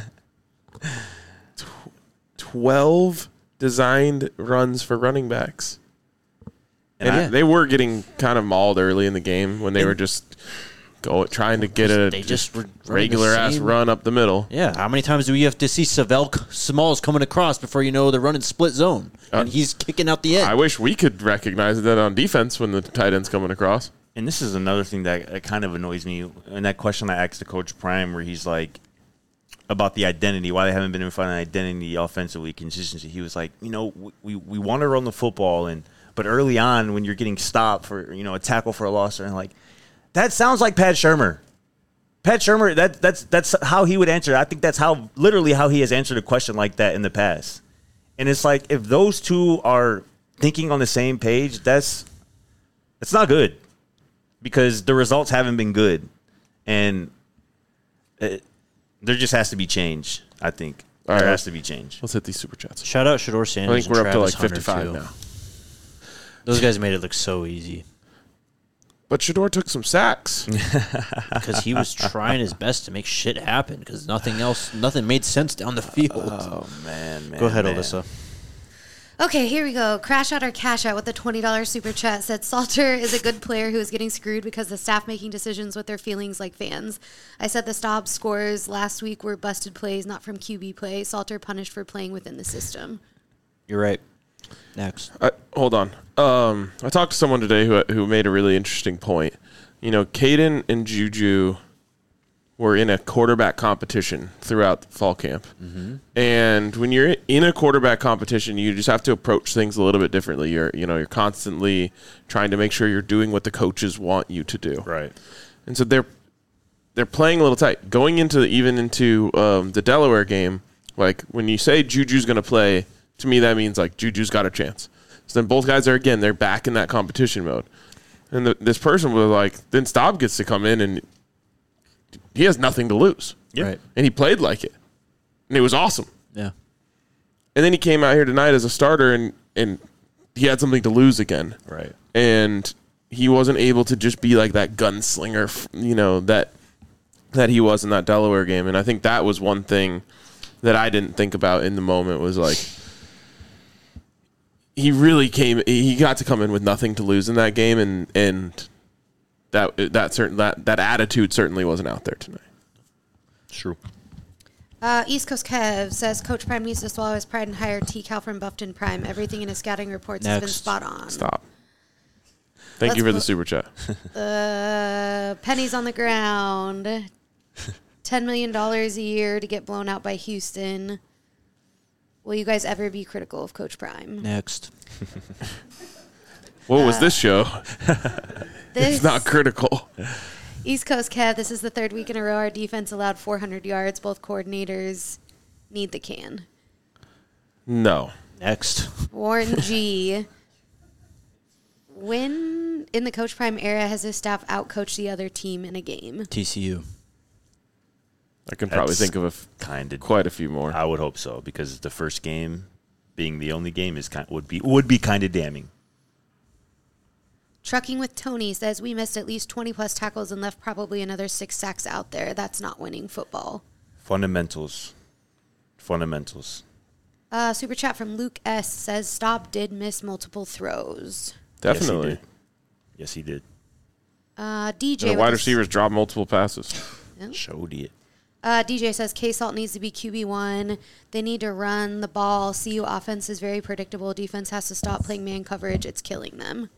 S2: 12 designed runs for running backs. And
S1: Yeah.
S2: they were getting kind of mauled early in the game when they were just trying to get a
S1: They just were running the
S2: regular ass
S1: same-
S2: run up the middle.
S1: Yeah, how many times do we have to see Smalls coming across before you know they're running split zone and he's kicking out the end?
S2: I wish we could recognize that on defense when the tight end's coming across.
S3: And this is another thing that kind of annoys me. And that question I asked to Coach Prime where he's like, about the identity, why they haven't been able to find an identity offensively, consistency. He was like, we want to run the football, but early on when you're getting stopped for, a tackle for a loss, and like, that sounds like Pat Shurmur. Pat Shurmur, that's how he would answer. I think that's literally how he has answered a question like that in the past. And it's like, if those two are thinking on the same page, it's not good because the results haven't been good. And there just has to be change, I think.
S2: All
S3: There
S2: right.
S3: has to be change.
S2: Let's hit these super chats.
S1: Shout out Shador
S2: I
S1: Sanders.
S2: think we're
S1: and
S2: up to like
S1: Travis
S2: 55
S1: Hunter, too.
S2: now.
S1: Those guys made it look so easy
S2: But Shador took some sacks.
S1: because he was trying his best to make shit happen because nothing made sense down the field.
S3: Oh, man.
S1: Go ahead,
S3: man.
S1: Alyssa.
S4: Okay, here we go. Crash Out or Cash Out with the $20 super chat said Salter is a good player who is getting screwed because the staff making decisions with their feelings like fans. I said the Staub scores last week were busted plays, not from QB play. Salter punished for playing within the system.
S1: You're right. Next.
S2: Hold on. I talked to someone today who made a really interesting point. Caden and Juju were in a quarterback competition throughout fall camp. Mm-hmm. And when you're in a quarterback competition, you just have to approach things a little bit differently. You're constantly trying to make sure you're doing what the coaches want you to do.
S3: Right.
S2: And so they're playing a little tight. Going into the Delaware game, like when you say Juju's going to play, to me that means like Juju's got a chance. So then both guys they're back in that competition mode. And this person was like, then Staub gets to come in and he has nothing to lose.
S3: Yeah.
S1: Right.
S2: And he played like it. And it was awesome.
S1: Yeah.
S2: And then he came out here tonight as a starter and he had something to lose again.
S3: Right.
S2: And he wasn't able to just be like that gunslinger, that he was in that Delaware game. And I think that was one thing that I didn't think about in the moment was like, he got to come in with nothing to lose in that game. And that attitude certainly wasn't out there tonight.
S3: True.
S4: East Coast Kev says Coach Prime needs to swallow his pride and hire T-Cal from Buffton Prime. Everything in his scouting reports has been
S1: Next.
S4: spot on.
S2: Stop. Thank you for the super chat.
S4: Pennies on the ground. $10 million a year to get blown out by Houston. Will you guys ever be critical of Coach Prime?
S1: Next.
S2: What was this show?
S4: This
S2: It's not critical.
S4: East Coast Kev, this is the third week in a row our defense allowed 400 yards. Both coordinators need the can.
S2: No.
S1: Next.
S4: Warren G. When in the Coach Prime era has his staff outcoached the other team in a game?
S1: TCU.
S2: I can probably
S3: That's
S2: think of
S3: Kind of.
S2: quite a few more.
S3: I would hope so because the first game being the only game would be kind of damning.
S4: Trucking with Tony says we missed at least 20-plus tackles and left probably another 6 sacks out there. That's not winning football.
S3: Fundamentals.
S4: Super chat from Luke S. says Staub did miss multiple throws.
S2: Definitely.
S3: Yes, he did.
S4: DJ.
S2: And the wide receivers dropped multiple passes.
S3: Showed it.
S4: DJ says K-Salt needs to be QB1. They need to run the ball. CU offense is very predictable. Defense has to stop playing man coverage. It's killing them.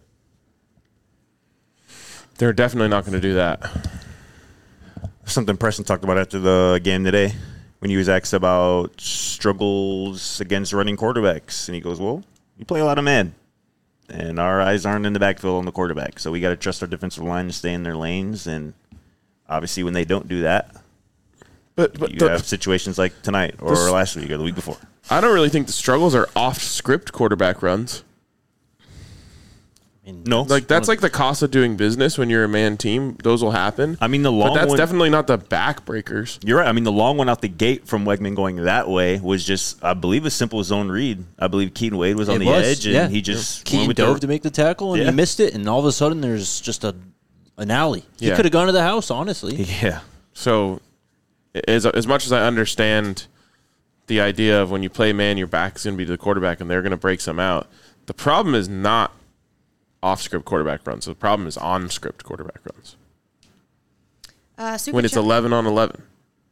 S2: They're definitely not going to do that.
S3: Something Preston talked about after the game today when he was asked about struggles against running quarterbacks. And he goes, well, you play a lot of man. And our eyes aren't in the backfield on the quarterback. So we got to trust our defensive line to stay in their lanes. And obviously when they don't do that,
S2: But
S3: you have situations like tonight or last week or the week before.
S2: I don't really think the struggles are off-script quarterback runs.
S1: I mean,
S3: No.
S2: Like that's like the cost of doing business when you're a man team. Those will happen.
S3: I mean, the long
S2: but that's
S3: one,
S2: definitely not the backbreakers.
S3: You're right. I mean, the long one out the gate from Wegman going that way was just, I believe, a simple zone read. I believe Keaton Wade was on the edge, and he just
S1: Keaton
S3: went with
S1: dove to make the tackle, and he
S3: Yeah.
S1: missed it, and all of a sudden there's just an alley. He
S2: Yeah.
S1: could have gone to the house, honestly.
S3: Yeah.
S2: So as much as I understand the idea of when you play man, your back's going to be to the quarterback, and they're going to break some out. The problem is not off-script quarterback runs. The problem is on-script quarterback runs. When it's 11 on 11.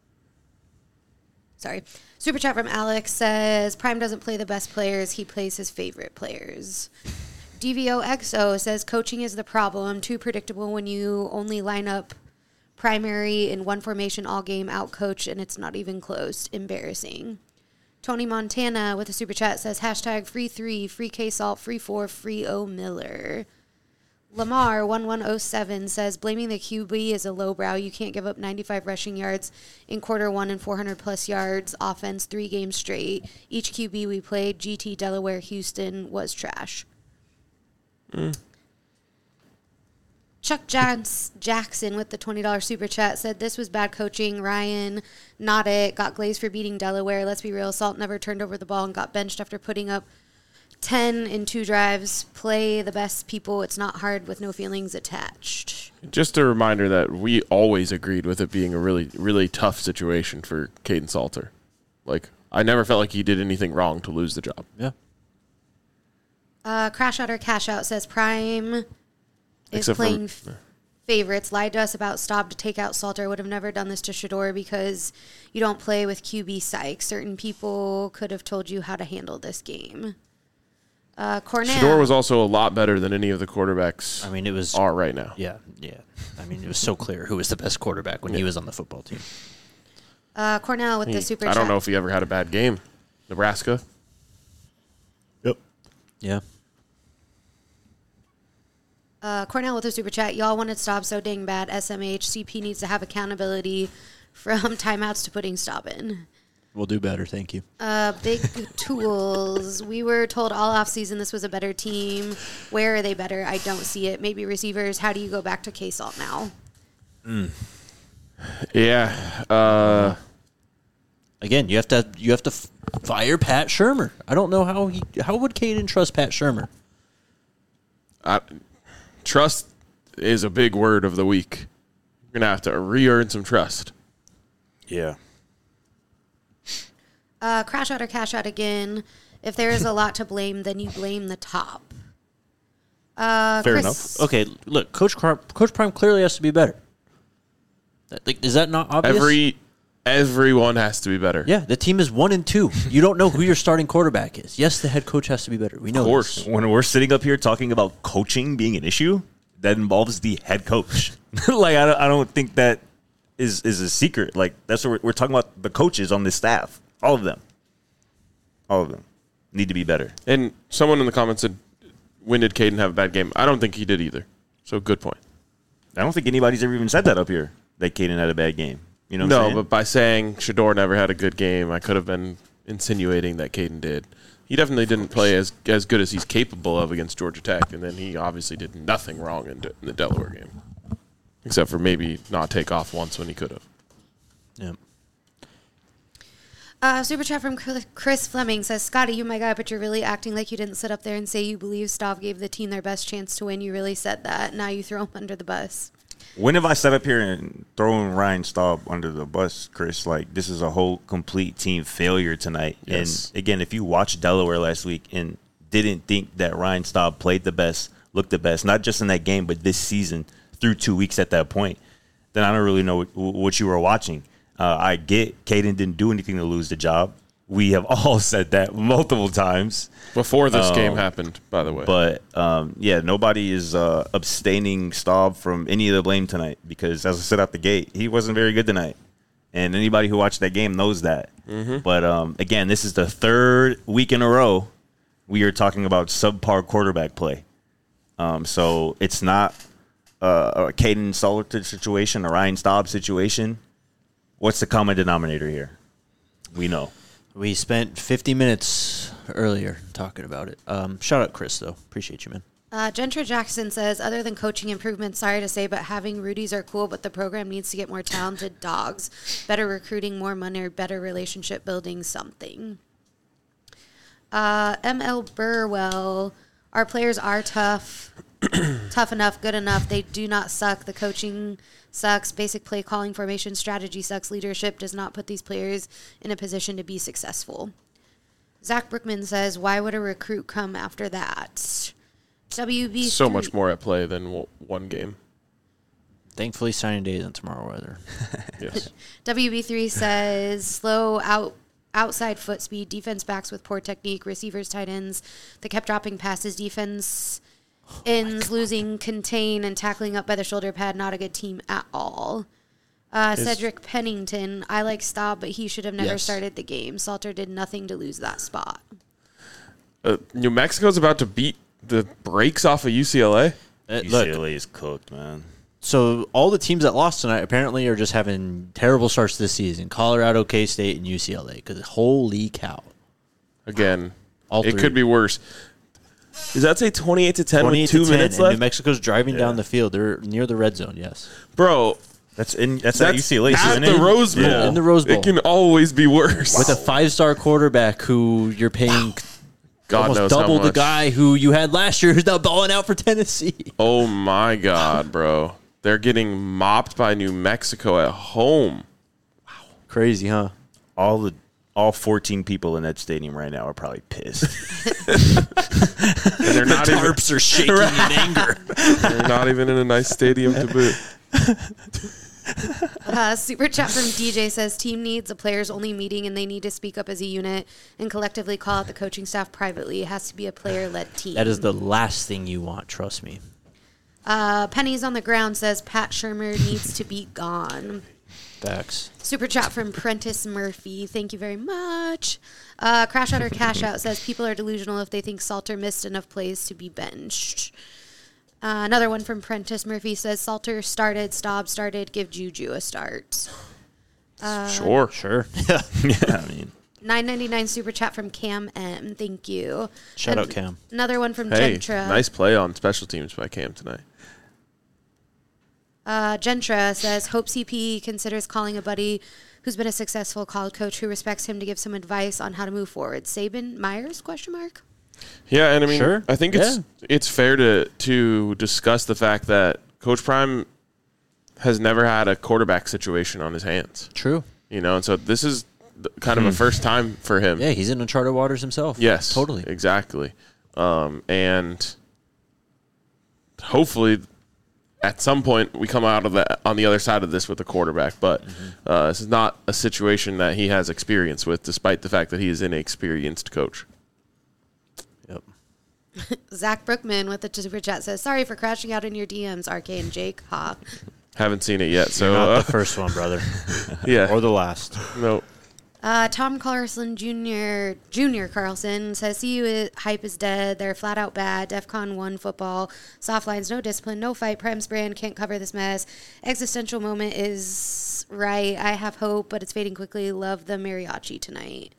S4: Sorry. Super chat from Alex says Prime doesn't play the best players. He plays his favorite players. DVOXO says coaching is the problem. Too predictable when you only line up primary in one formation all game, out coach, and it's not even close. Embarrassing. Tony Montana with a super chat says hashtag free 3, free K-Salt, free 4, free O Miller. Lamar 1107 says blaming the QB is a lowbrow. You can't give up 95 rushing yards in quarter one and 400 plus yards offense 3 games straight. Each QB we played, GT, Delaware, Houston, was trash. Chuck Jackson with the $20 super chat said this was bad coaching. Ryan, not it. Got glazed for beating Delaware. Let's be real. Salt never turned over the ball and got benched after putting up 10 in 2 drives. Play the best people. It's not hard with no feelings attached.
S2: Just a reminder that we always agreed with it being a really, really tough situation for Caden Salter. Like, I never felt like he did anything wrong to lose the job.
S1: Yeah.
S4: Crash Out or Cash Out says Prime is
S2: Except for-
S4: playing favorites. Lied to us about Staub to take out Salter. Would have never done this to Shador because you don't play with QB psych. Certain people could have told you how to handle this game. Cornell.
S2: Shador was also a lot better than any of the quarterbacks
S1: I mean, it was
S2: are right now.
S1: Yeah. I mean, it was so clear who was the best quarterback when he was on the football team.
S4: Cornell with the super
S2: I
S4: chat.
S2: don't know if he ever had a bad game. Nebraska.
S3: Yep.
S1: Yeah.
S4: Cornell with a super chat. Y'all wanted Staub so dang bad. SMH. CP needs to have accountability from timeouts to putting Staub in.
S1: We'll do better. Thank you.
S4: Big Tools. We were told all offseason this was a better team. Where are they better? I don't see it. Maybe receivers. How do you go back to K-Salt now?
S2: Yeah.
S1: Again, you have to fire Pat Shurmur. I don't know how would Caden trust Pat Shurmur?
S2: Trust is a big word of the week. You're going to have to re-earn some trust.
S3: Yeah.
S4: Crash out or cash out again. If there is a lot to blame, then you blame the top.
S3: Fair
S4: Chris,
S3: enough.
S1: Okay, look, Coach Prime clearly has to be better. Like, is that not obvious?
S2: Everyone has to be better.
S1: Yeah, the team is 1-2. You don't know who your starting quarterback is. Yes, the head coach has to be better. We know.
S2: Of course.
S1: this.
S3: When we're sitting up here talking about coaching being an issue, that involves the head coach. Like, I don't think that is a secret. Like, that's what we're talking about. The coaches on this staff, all of them need to be better.
S2: And someone in the comments said, when did Caden have a bad game? I don't think he did either. So good point.
S3: I don't think anybody's ever even said that up here, that Caden had a bad game. You know what I'm saying?
S2: No, but by saying Shador never had a good game, I could have been insinuating that Caden did. He definitely didn't play as good as he's capable of against Georgia Tech, and then he obviously did nothing wrong in the Delaware game, except for maybe not take off once when he could have.
S1: Yeah.
S4: Super chat from Chris Fleming says, Scotty, you my guy, but you're really acting like you didn't sit up there and say you believe Stav gave the team their best chance to win. You really said that. Now you throw him under the bus.
S3: When have I sat up here and thrown Ryan Staub under the bus, Chris? Like, this is a whole complete team failure tonight.
S2: Yes.
S3: And, again, if you watched Delaware last week and didn't think that Ryan Staub played the best, looked the best, not just in that game, but this season through 2 weeks at that point, then I don't really know what you were watching. I get Caden didn't do anything to lose the job. We have all said that multiple times.
S2: Before this game happened, by the way.
S3: But, nobody is abstaining Staub from any of the blame tonight because, as I said out the gate, he wasn't very good tonight. And anybody who watched that game knows that. Mm-hmm. But, again, this is the third week in a row we are talking about subpar quarterback play. So it's not a Caden Salter situation, a Ryan Staub situation. What's the common denominator here? We know.
S1: We spent 50 minutes earlier talking about it. Shout out Chris, though. Appreciate you, man.
S4: Gentra Jackson says, other than coaching improvements, sorry to say, but having Rudies are cool, but the program needs to get more talented dogs, better recruiting, more money, or better relationship building, something. M.L. Burwell, our players are tough, tough enough, good enough. They do not suck. The coaching sucks. Basic play calling, formation, strategy sucks. Leadership does not put these players in a position to be successful. Zach Brookman says, why would a recruit come after that? WB
S2: So much more at play than one game.
S1: Thankfully, signing day isn't tomorrow either.
S2: Yes.
S4: WB3 says, slow outside foot speed, defense backs with poor technique, receivers, tight ends. They kept dropping passes, defense ends losing contain and tackling up by the shoulder pad. Not a good team at all. Cedric Pennington, I like Staub, but he should have never started the game. Salter did nothing to lose that spot.
S2: New Mexico's about to beat the brakes off of UCLA.
S3: UCLA is cooked, man.
S1: So all the teams that lost tonight apparently are just having terrible starts this season. Colorado, K-State, and UCLA. Because holy cow.
S2: Again,
S1: All
S2: it
S1: three.
S2: could be worse. Does that say 28-10 with 2 minutes
S1: and
S2: left?
S1: New Mexico's driving down the field. They're near the red zone, yes.
S2: Bro,
S3: That's at UCLA,
S2: at
S3: isn't
S2: the
S3: it?
S2: Rose Bowl.
S3: Yeah.
S1: In the Rose Bowl.
S2: It can always be worse.
S1: With a 5-star quarterback who you're paying
S2: God
S1: almost
S2: knows
S1: double
S2: how
S1: the
S2: much.
S1: guy who you had last year who's now balling out for Tennessee.
S2: Oh, my God, bro. They're getting mopped by New Mexico at home.
S1: Crazy, huh?
S3: All 14 people in that stadium right now are probably pissed.
S2: And they're not even,
S1: Tarps are shaking in anger.
S2: they're not even in a nice stadium to boot.
S4: Super chat from DJ says, team needs a players-only meeting, and they need to speak up as a unit and collectively call out the coaching staff privately. It has to be a player-led team.
S1: That is the last thing you want, trust me.
S4: Pennies on the Ground says, Pat Shermer needs to be gone.
S1: Facts.
S4: Super chat from Prentice Murphy. Thank you very much. Crash Out or Cash Out says, people are delusional if they think Salter missed enough plays to be benched. Another one from Prentice Murphy says, Salter started, Staub started, give Juju a start.
S2: Sure.
S1: Yeah.
S3: Yeah, I mean,
S4: $9.99 super chat from Cam M. Thank you.
S1: Shout
S4: And
S1: out Cam.
S4: Another one from
S2: Hey,
S4: Gentra.
S2: nice play on special teams by Cam tonight.
S4: Gentra says, hope CP considers calling a buddy who's been a successful college coach who respects him to give some advice on how to move forward. Saban Myers, question mark?
S2: Yeah, and I mean,
S1: Sure.
S2: I think it's fair to discuss the fact that Coach Prime has never had a quarterback situation on his hands.
S1: True.
S2: You know, and so this is kind of a first time for him.
S1: Yeah, he's in uncharted waters himself.
S2: Yes,
S1: Totally.
S2: exactly. And hopefully, at some point, we come out of that on the other side of this with a quarterback. But this is not a situation that he has experience with, despite the fact that he is an experienced coach.
S1: Yep.
S4: Zach Brookman with the super chat says, sorry for crashing out in your DMs, RK and Jake. Ha.
S2: Haven't seen it yet, so
S1: Not the first one, brother.
S2: yeah,
S1: Or the last.
S2: no.
S4: Tom Carlson Jr. Carlson says, CU hype is dead. They're flat out bad. DEFCON 1 football. Soft lines, no discipline, no fight. Prem's brand can't cover this mess. Existential moment is right. I have hope, but it's fading quickly. Love the mariachi tonight.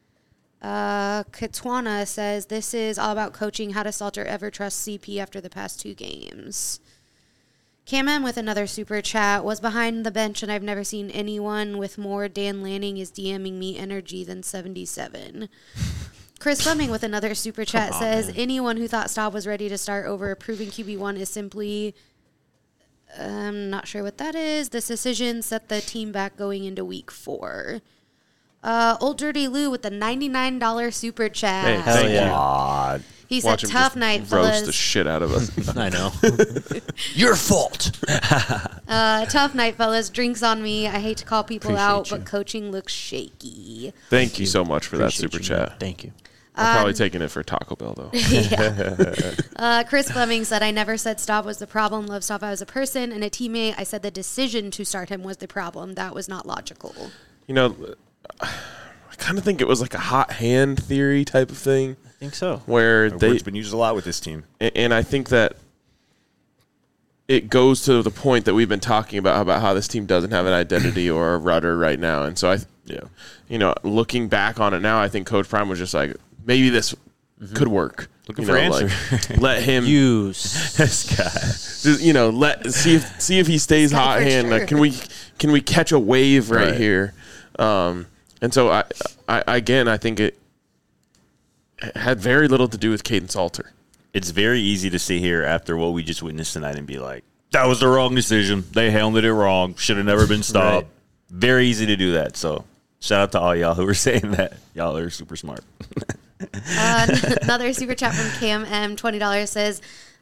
S4: Katwana says, this is all about coaching. How does Salter ever trust CP after the past 2 games? Cam M with another super chat was behind the bench, and I've never seen anyone with more Dan Lanning is DMing me energy than 77. Chris Fleming with another super chat says, anyone who thought Staub was ready to start over a proven QB1 is simply I'm not sure what that is. This decision set the team back going into week 4. Old Dirty Lou with the $99 super chat.
S2: Hey,
S1: Hell
S2: thank
S1: yeah.
S2: you.
S3: God.
S4: He said,
S2: Watch him
S4: tough
S2: just
S4: night,
S2: roast
S4: fellas.
S2: the shit out of us.
S1: I know. Your fault.
S4: Tough night, fellas. Drinks on me. I hate to call people
S1: Appreciate
S4: out,
S1: you.
S4: but coaching looks shaky.
S2: Thank you so much for that
S1: Appreciate
S2: super
S1: you, man.
S2: chat.
S1: Thank you.
S2: I'm probably taking it for Taco Bell, though.
S4: Yeah. Chris Fleming said, I never said Staub was the problem. Love Staub as a person and a teammate. I said the decision to start him was the problem. That was not logical.
S2: You know, I kind of think it was like a hot hand theory type of thing
S1: I think so.
S2: where
S3: That
S2: they
S3: word's been used a lot with this team.
S2: and I think that it goes to the point that we've been talking about how this team doesn't have an identity or a rudder right now. And so looking back on it now, I think Coach Prime was just like, maybe this could work.
S3: Looking for answer.
S2: Let him
S1: Use.
S3: This guy.
S2: just, see if he stays
S4: Guy
S2: hot
S4: for
S2: hand.
S4: sure.
S2: Like, can we catch a wave right
S3: Right.
S2: here? And so I think it had very little to do with Caden Salter.
S3: It's very easy to sit here after what we just witnessed tonight and be like, that was the wrong decision. They handled it wrong. Should have never been stopped.
S1: Right.
S3: Very easy to do that. So shout out to all y'all who were saying that. Y'all are super smart.
S4: Another super chat from Cam M, $20 says,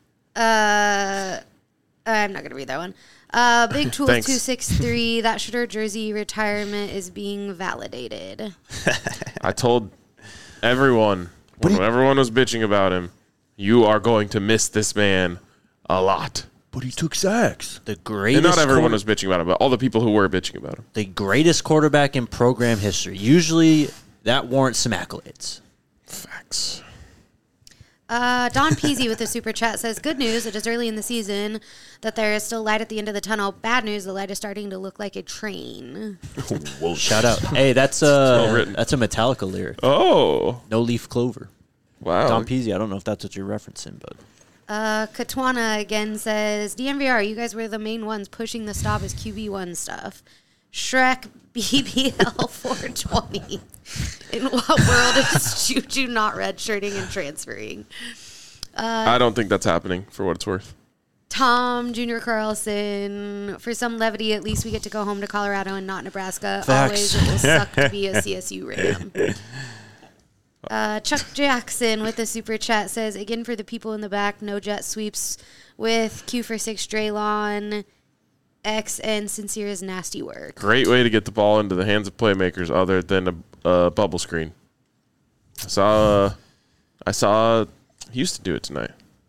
S4: I'm not going to read that one. Big Tools
S2: Thanks.
S4: 263, that Shooter jersey retirement is being validated.
S2: I told everyone when everyone was bitching about him, you are going to miss this man a lot.
S3: But he took sacks.
S1: The
S2: And
S1: greatest.
S2: not everyone was bitching about him, but all the people who were bitching about him.
S1: The greatest quarterback in program history. Usually that warrants some accolades.
S2: Facts.
S4: Don Peasy with the super chat says, good news, it is early in the season that there is still light at the end of the tunnel. Bad news, the light is starting to look like a train.
S3: Whoa.
S1: Shout out. Hey, that's
S2: well written.
S1: a Metallica lyric.
S2: Oh,
S1: No leaf clover.
S2: wow.
S1: Don Peasy, I don't know if that's what you're referencing, but
S4: Katwana again says, DMVR, you guys were the main ones pushing the stop as QB1 stuff. Shrek BBL 420. In what world is Juju not redshirting and transferring?
S2: I don't think that's happening for what it's worth.
S4: Tom Jr. Carlson, for some levity, at least we get to go home to Colorado and not Nebraska.
S1: Facts.
S4: Always it will suck to be a CSU Ram. Chuck Jackson with the super chat says, again for the people in the back, no jet sweeps with Q for 6 Draylon, X, and Sincere's nasty work.
S2: Great way to get the ball into the hands of playmakers other than a bubble screen. I saw Houston do it tonight.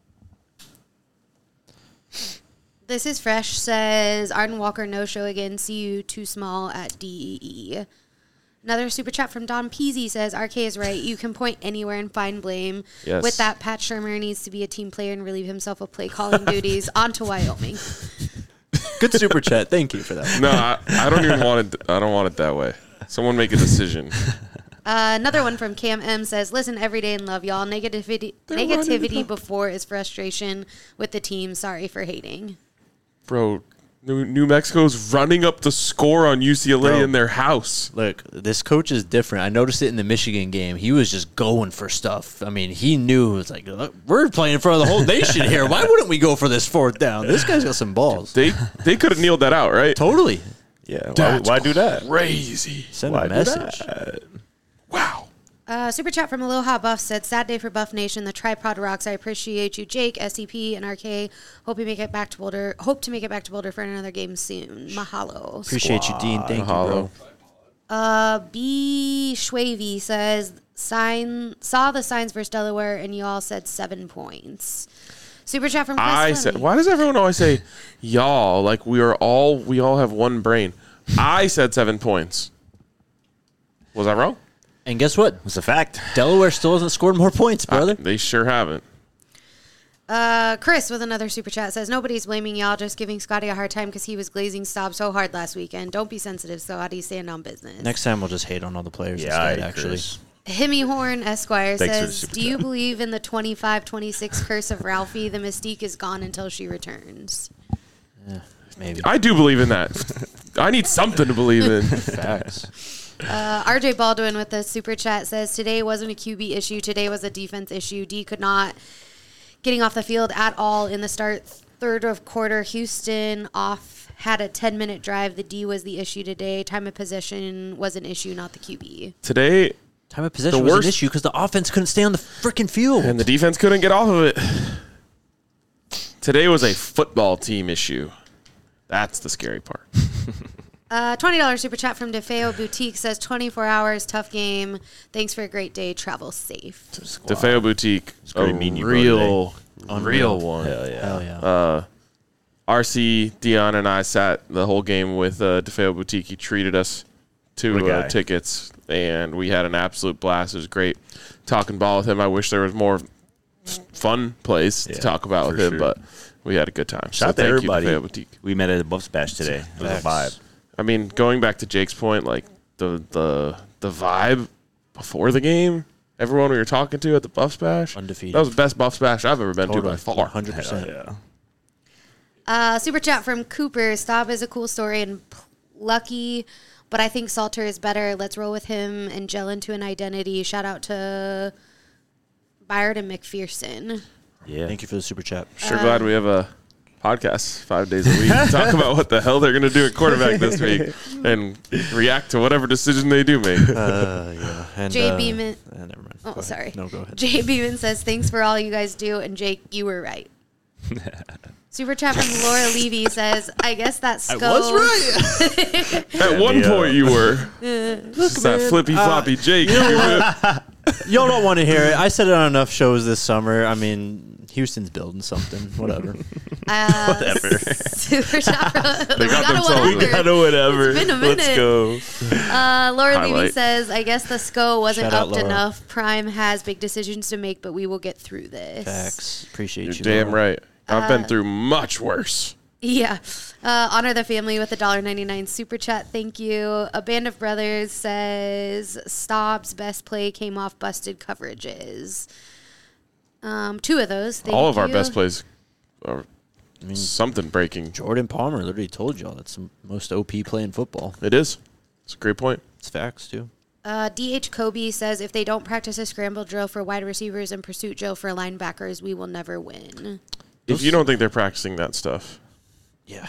S4: This is Fresh says, Arden Walker no show again, CU too small at DEE. Another super chat from Don Peasy says, RK is right. You can point anywhere and find blame.
S2: Yes.
S4: With that, Pat Shermer needs to be a team player and relieve himself of play calling duties. On to Wyoming.
S1: good super chat. Thank you for that.
S2: No, I don't even want it. I don't want it that way. Someone make a decision.
S4: Another one from Cam M says, listen every day and love y'all. Negativity before is frustration with the team. Sorry for hating.
S2: Bro, New Mexico's running up the score on UCLA
S1: Bro.
S2: in their house.
S1: Look, this coach is different. I noticed it in the Michigan game. He was just going for stuff. I mean, he knew it was like, look, we're playing in front of the whole nation here. Why wouldn't we go for this fourth down? This guy's got some balls.
S2: They could have kneeled that out, right?
S1: Totally.
S3: Yeah.
S2: That's
S3: Why do that?
S2: Crazy.
S1: Send
S3: Why
S1: a
S3: do
S1: message.
S3: that?
S2: Wow.
S4: Super chat from Aloha Buff said, sad day for Buff Nation. The tripod rocks. I appreciate you, Jake, SCP, and RK. Hope to make it back to Boulder for another game soon. Mahalo.
S1: Appreciate you, Dean. Thank
S2: Mahalo.
S1: you, bro.
S4: B. Schwavy says, saw the signs versus Delaware, and y'all said 7 points. Super chat from Chris Fleming.
S2: Why does everyone always say y'all? Like we all have one brain. I said 7 points. Was I wrong?
S1: And guess what?
S3: It's a fact.
S1: Delaware still hasn't scored more points, brother.
S2: They sure haven't.
S4: Chris with another super chat says, nobody's blaming y'all, just giving Scotty a hard time because he was glazing Staub so hard last weekend. Don't be sensitive, Scotty. Stand on business.
S1: Next time we'll just hate on all the players
S3: Yeah,
S1: instead, actually.
S3: Chris.
S4: Himmy Horn Esquire
S3: Thanks for the
S4: says,
S3: super
S4: do you
S3: chat.
S4: believe in the 25-26 curse of Ralphie? The mystique is gone until she returns.
S1: Maybe.
S2: I do believe in that. I need something to believe in.
S1: Facts.
S4: RJ Baldwin with the super chat says, today wasn't a QB issue. Today was a defense issue. D could not getting off the field at all in the start third of quarter, Houston had a 10-minute drive. The D was the issue today. Time of possession was an issue, not the QB.
S2: Today,
S1: Time of possession was an issue because the offense couldn't stay on the freaking field.
S2: and the defense couldn't get off of it. Today was a football team issue. That's the scary part.
S4: $20 super chat from DeFeo Boutique says 24 hours, tough game. Thanks for a great day. Travel safe.
S2: DeFeo Boutique, a
S3: great meeting you, bro,
S2: real one.
S3: Hell yeah.
S1: Hell yeah.
S2: RC, Dion, and I sat the whole game with DeFeo Boutique. He treated us
S3: What a
S2: to
S3: guy.
S2: tickets, and we had an absolute blast. It was great talking ball with him. I wish there was more fun plays to
S3: Yeah,
S2: talk about with
S3: for
S2: him,
S3: sure.
S2: but we had a good time.
S3: Shout out to
S2: thank
S3: everybody.
S2: you, DeFeo Boutique.
S3: We met at the Buffs Bash today. It was a vibe.
S2: I mean, going back to Jake's point, like the vibe before the game, everyone we were talking to at the Buffs Bash,
S1: Undefeated.
S2: that was the best Buffs Bash I've ever been to by
S1: Totally.
S2: far.
S1: 100%.
S3: Yeah.
S4: Super chat from Cooper. Staub is a cool story and lucky, but I think Salter is better. Let's roll with him and gel into an identity. Shout out to Byard and McPherson.
S3: Yeah.
S1: Thank you for the super chat.
S2: Sure glad we have a podcast 5 days a week to talk about what the hell they're going to do at quarterback this week and react to whatever decision they do make.
S1: Yeah. And,
S4: Jay Beeman.
S1: Never mind.
S4: Oh,
S1: Go ahead.
S4: sorry.
S1: No, go ahead.
S4: Jay Beeman says, thanks for all you guys do. And Jake, you were right. Super chat from Laura Levy says, I guess that skull.
S2: At one point you were. It's that flippy floppy Jake.
S1: Y'all don't want to hear it. I said it on enough shows this summer. I mean, Houston's building something. Whatever.
S3: Whatever.
S4: Super chat from
S2: They got themselves
S4: whatever.
S2: a-
S3: Gotta whatever.
S4: It's been a
S3: Let's
S4: minute.
S3: go.
S4: Laura Levy
S2: Highlight.
S4: says, I guess the SCO wasn't
S1: Shout out,
S4: upped
S1: Laura.
S4: enough. Prime has big decisions to make, but we will get through this.
S1: Facts. Appreciate
S2: You're
S1: you.
S2: damn
S1: Laura.
S2: right. I've been through much worse.
S4: Yeah. Honor the family with a $1.99 super chat. Thank you. A Band of Brothers says Staub's best play came off busted coverages. Two of those. Thank
S2: All of our
S4: you.
S2: best plays are
S1: I mean,
S2: something breaking.
S1: Jordan Palmer literally told y'all that's the most OP play in football.
S2: It is. It's a great point.
S1: It's facts, too.
S4: DH Kobe says if they don't practice a scramble drill for wide receivers and pursuit drill for linebackers, we will never win.
S2: If you don't think they're practicing that stuff,
S1: Yeah.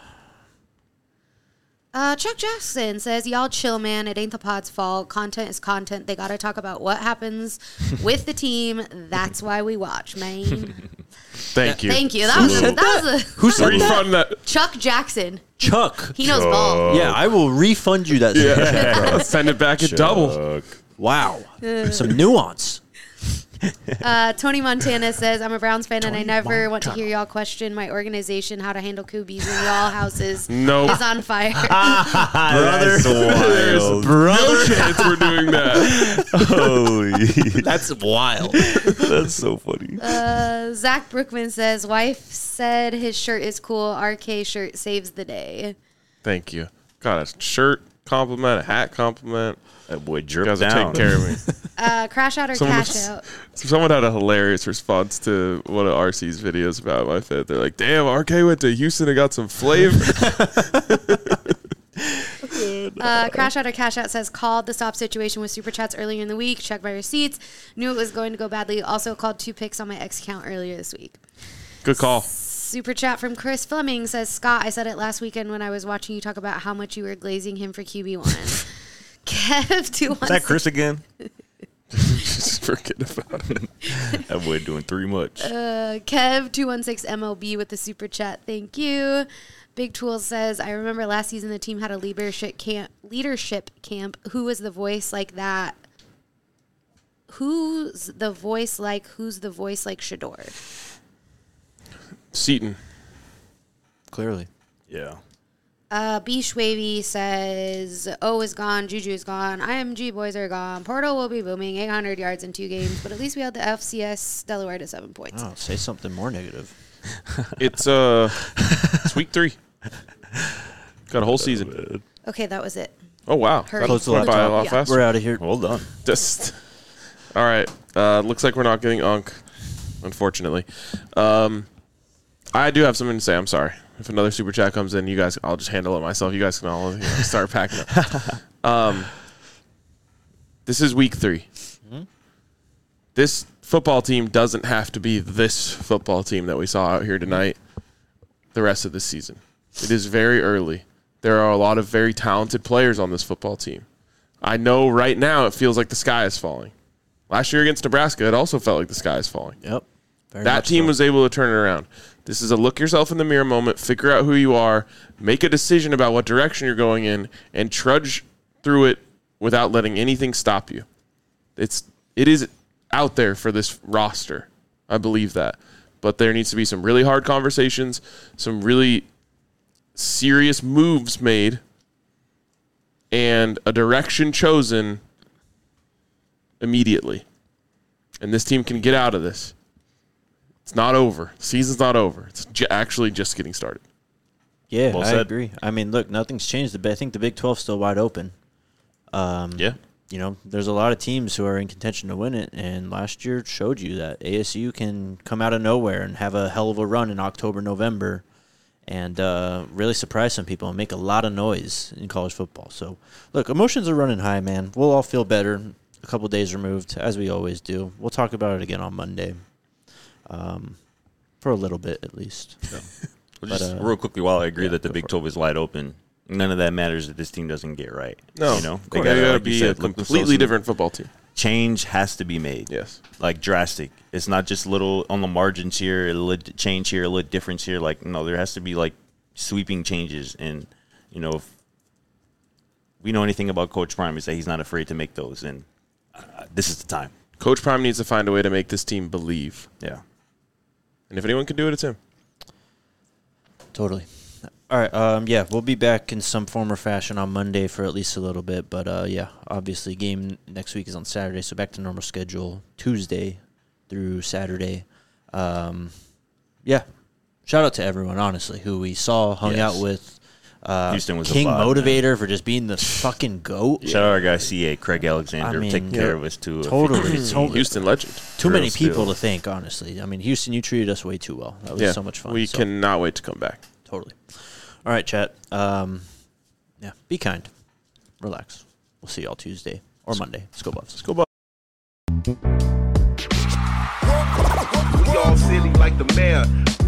S4: Chuck Jackson says, y'all chill, man. It ain't the pod's fault. Content is content. They got to talk about what happens with the team. That's why we watch, man.
S2: thank you.
S4: Thank you. That was a
S1: Who said that?
S2: Refund that.
S4: Chuck Jackson.
S1: Chuck.
S4: He knows ball.
S1: Yeah, I will refund you that.
S2: Yeah. Send it back at double.
S1: Wow. Some nuance.
S4: Tony Montana says, I'm a Browns fan and I never want to hear y'all question my organization, how to handle QBs when y'all houses
S2: Nope.
S4: is on fire.
S3: Brother.
S2: There's no chance we're doing that.
S3: Holy.
S1: That's wild.
S3: That's so funny.
S4: Zach Brookman says, wife said his shirt is cool. RK shirt saves the day.
S2: Thank you. Got a shirt compliment, a hat compliment.
S3: That boy
S2: You
S3: dripped
S2: guys are
S3: down.
S2: taking care of me.
S4: Crash out or
S2: Someone
S4: cash
S2: was-
S4: out?
S2: Someone had a hilarious response to one of RC's videos about my fit. They're like, damn, RK went to Houston and got some flavor.
S4: Crash out or cash out says, called the stop situation with super chats earlier in the week. Checked my receipts. Knew it was going to go badly. Also called 2 picks on my X account earlier this week.
S2: Good call.
S4: Super chat from Chris Fleming says, Scott, I said it last weekend when I was watching you talk about how much you were glazing him for QB1. Kev 216.
S3: Is that Chris again?
S2: Just forget about it.
S3: That boy doing too much.
S4: Kev 216 MLB with the super chat. Thank you. Big Tool says, I remember last season the team had a leadership camp. Who was the voice like that? Who's the voice like Shador?
S2: Seaton.
S1: Clearly.
S3: Yeah.
S4: B. Schwavy says, O is gone, Juju is gone, IMG boys are gone, Portal will be booming, 800 yards in 2 games, but at least we had the FCS Delaware to 7 points.
S1: Oh, say something more negative.
S2: It's week 3. Got a whole season.
S4: Okay, that was it.
S2: Oh, wow.
S4: Hurry.
S2: That
S1: Close the
S2: went by a
S1: laptop.
S2: lot
S4: Yeah.
S2: faster.
S1: We're out of here.
S3: Well done.
S2: Just all right. Looks like we're not getting Unk, unfortunately. I do have something to say. I'm sorry. If another super chat comes in, you guys, I'll just handle it myself. You guys can all start packing up. This is week 3. This football team doesn't have to be this football team that we saw out here tonight. the rest of this season. It is very early. There are a lot of very talented players on this football team. I know right now it feels like the sky is falling. Last year against Nebraska, it also felt like the sky is falling.
S1: Yep.
S2: That team was able to turn it around. This is a look yourself in the mirror moment, figure out who you are, make a decision about what direction you're going in, and trudge through it without letting anything stop you. It is out there for this roster. I believe that. But there needs to be some really hard conversations, some really serious moves made, and a direction chosen immediately. And this team can get out of this. It's not over. The season's not over. It's actually just getting started.
S1: Yeah,
S3: Well
S1: I
S3: said.
S1: agree. I mean, look, nothing's changed. I think the Big 12's still wide open.
S3: Yeah.
S1: You know, there's a lot of teams who are in contention to win it, and last year showed you that ASU can come out of nowhere and have a hell of a run in October, November, and really surprise some people and make a lot of noise in college football. So, look, emotions are running high, man. We'll all feel better a couple days removed, as we always do. We'll talk about it again on Monday, for a little bit at least. So.
S3: Just real quickly, while I agree that the Big 12 is wide open, none of that matters if this team doesn't get right.
S2: No,
S3: you know,
S2: they gotta
S3: like you
S2: be
S3: said,
S2: a
S3: look themselves
S2: completely
S3: in-
S2: different football team.
S3: Change has to be made.
S2: Yes.
S3: Like drastic. It's not just little on the margins here, a little change here, a little difference here. Like, no, there has to be like sweeping changes. And, you know, if we know anything about Coach Prime, is that he's not afraid to make those. And this is the time.
S2: Coach Prime needs to find a way to make this team believe.
S3: Yeah.
S2: And if anyone can do it, it's him.
S1: Totally. All right. Yeah, we'll be back in some form or fashion on Monday for at least a little bit. But, yeah, obviously game next week is on Saturday, so back to normal schedule Tuesday through Saturday. Yeah, shout out to everyone, honestly, who we saw, hung
S3: Yes.
S1: out with.
S3: Houston was a
S1: King
S3: vibe,
S1: Motivator for just being the fucking GOAT.
S3: Shout out our guy, CA, Craig Alexander,
S1: I mean,
S3: taking care of us, too.
S1: Totally.
S2: Houston legend.
S1: Too many
S3: Real
S1: people
S3: still.
S1: to thank, honestly. I mean, Houston, you treated us way too well. That was so much fun.
S2: We
S1: So,
S2: cannot wait to come back.
S1: Totally. All right, chat. Yeah, be kind. Relax. We'll see y'all Tuesday or Monday. Let's go Buffs.
S2: Let's go, Bucks.
S5: We all silly like the mayor.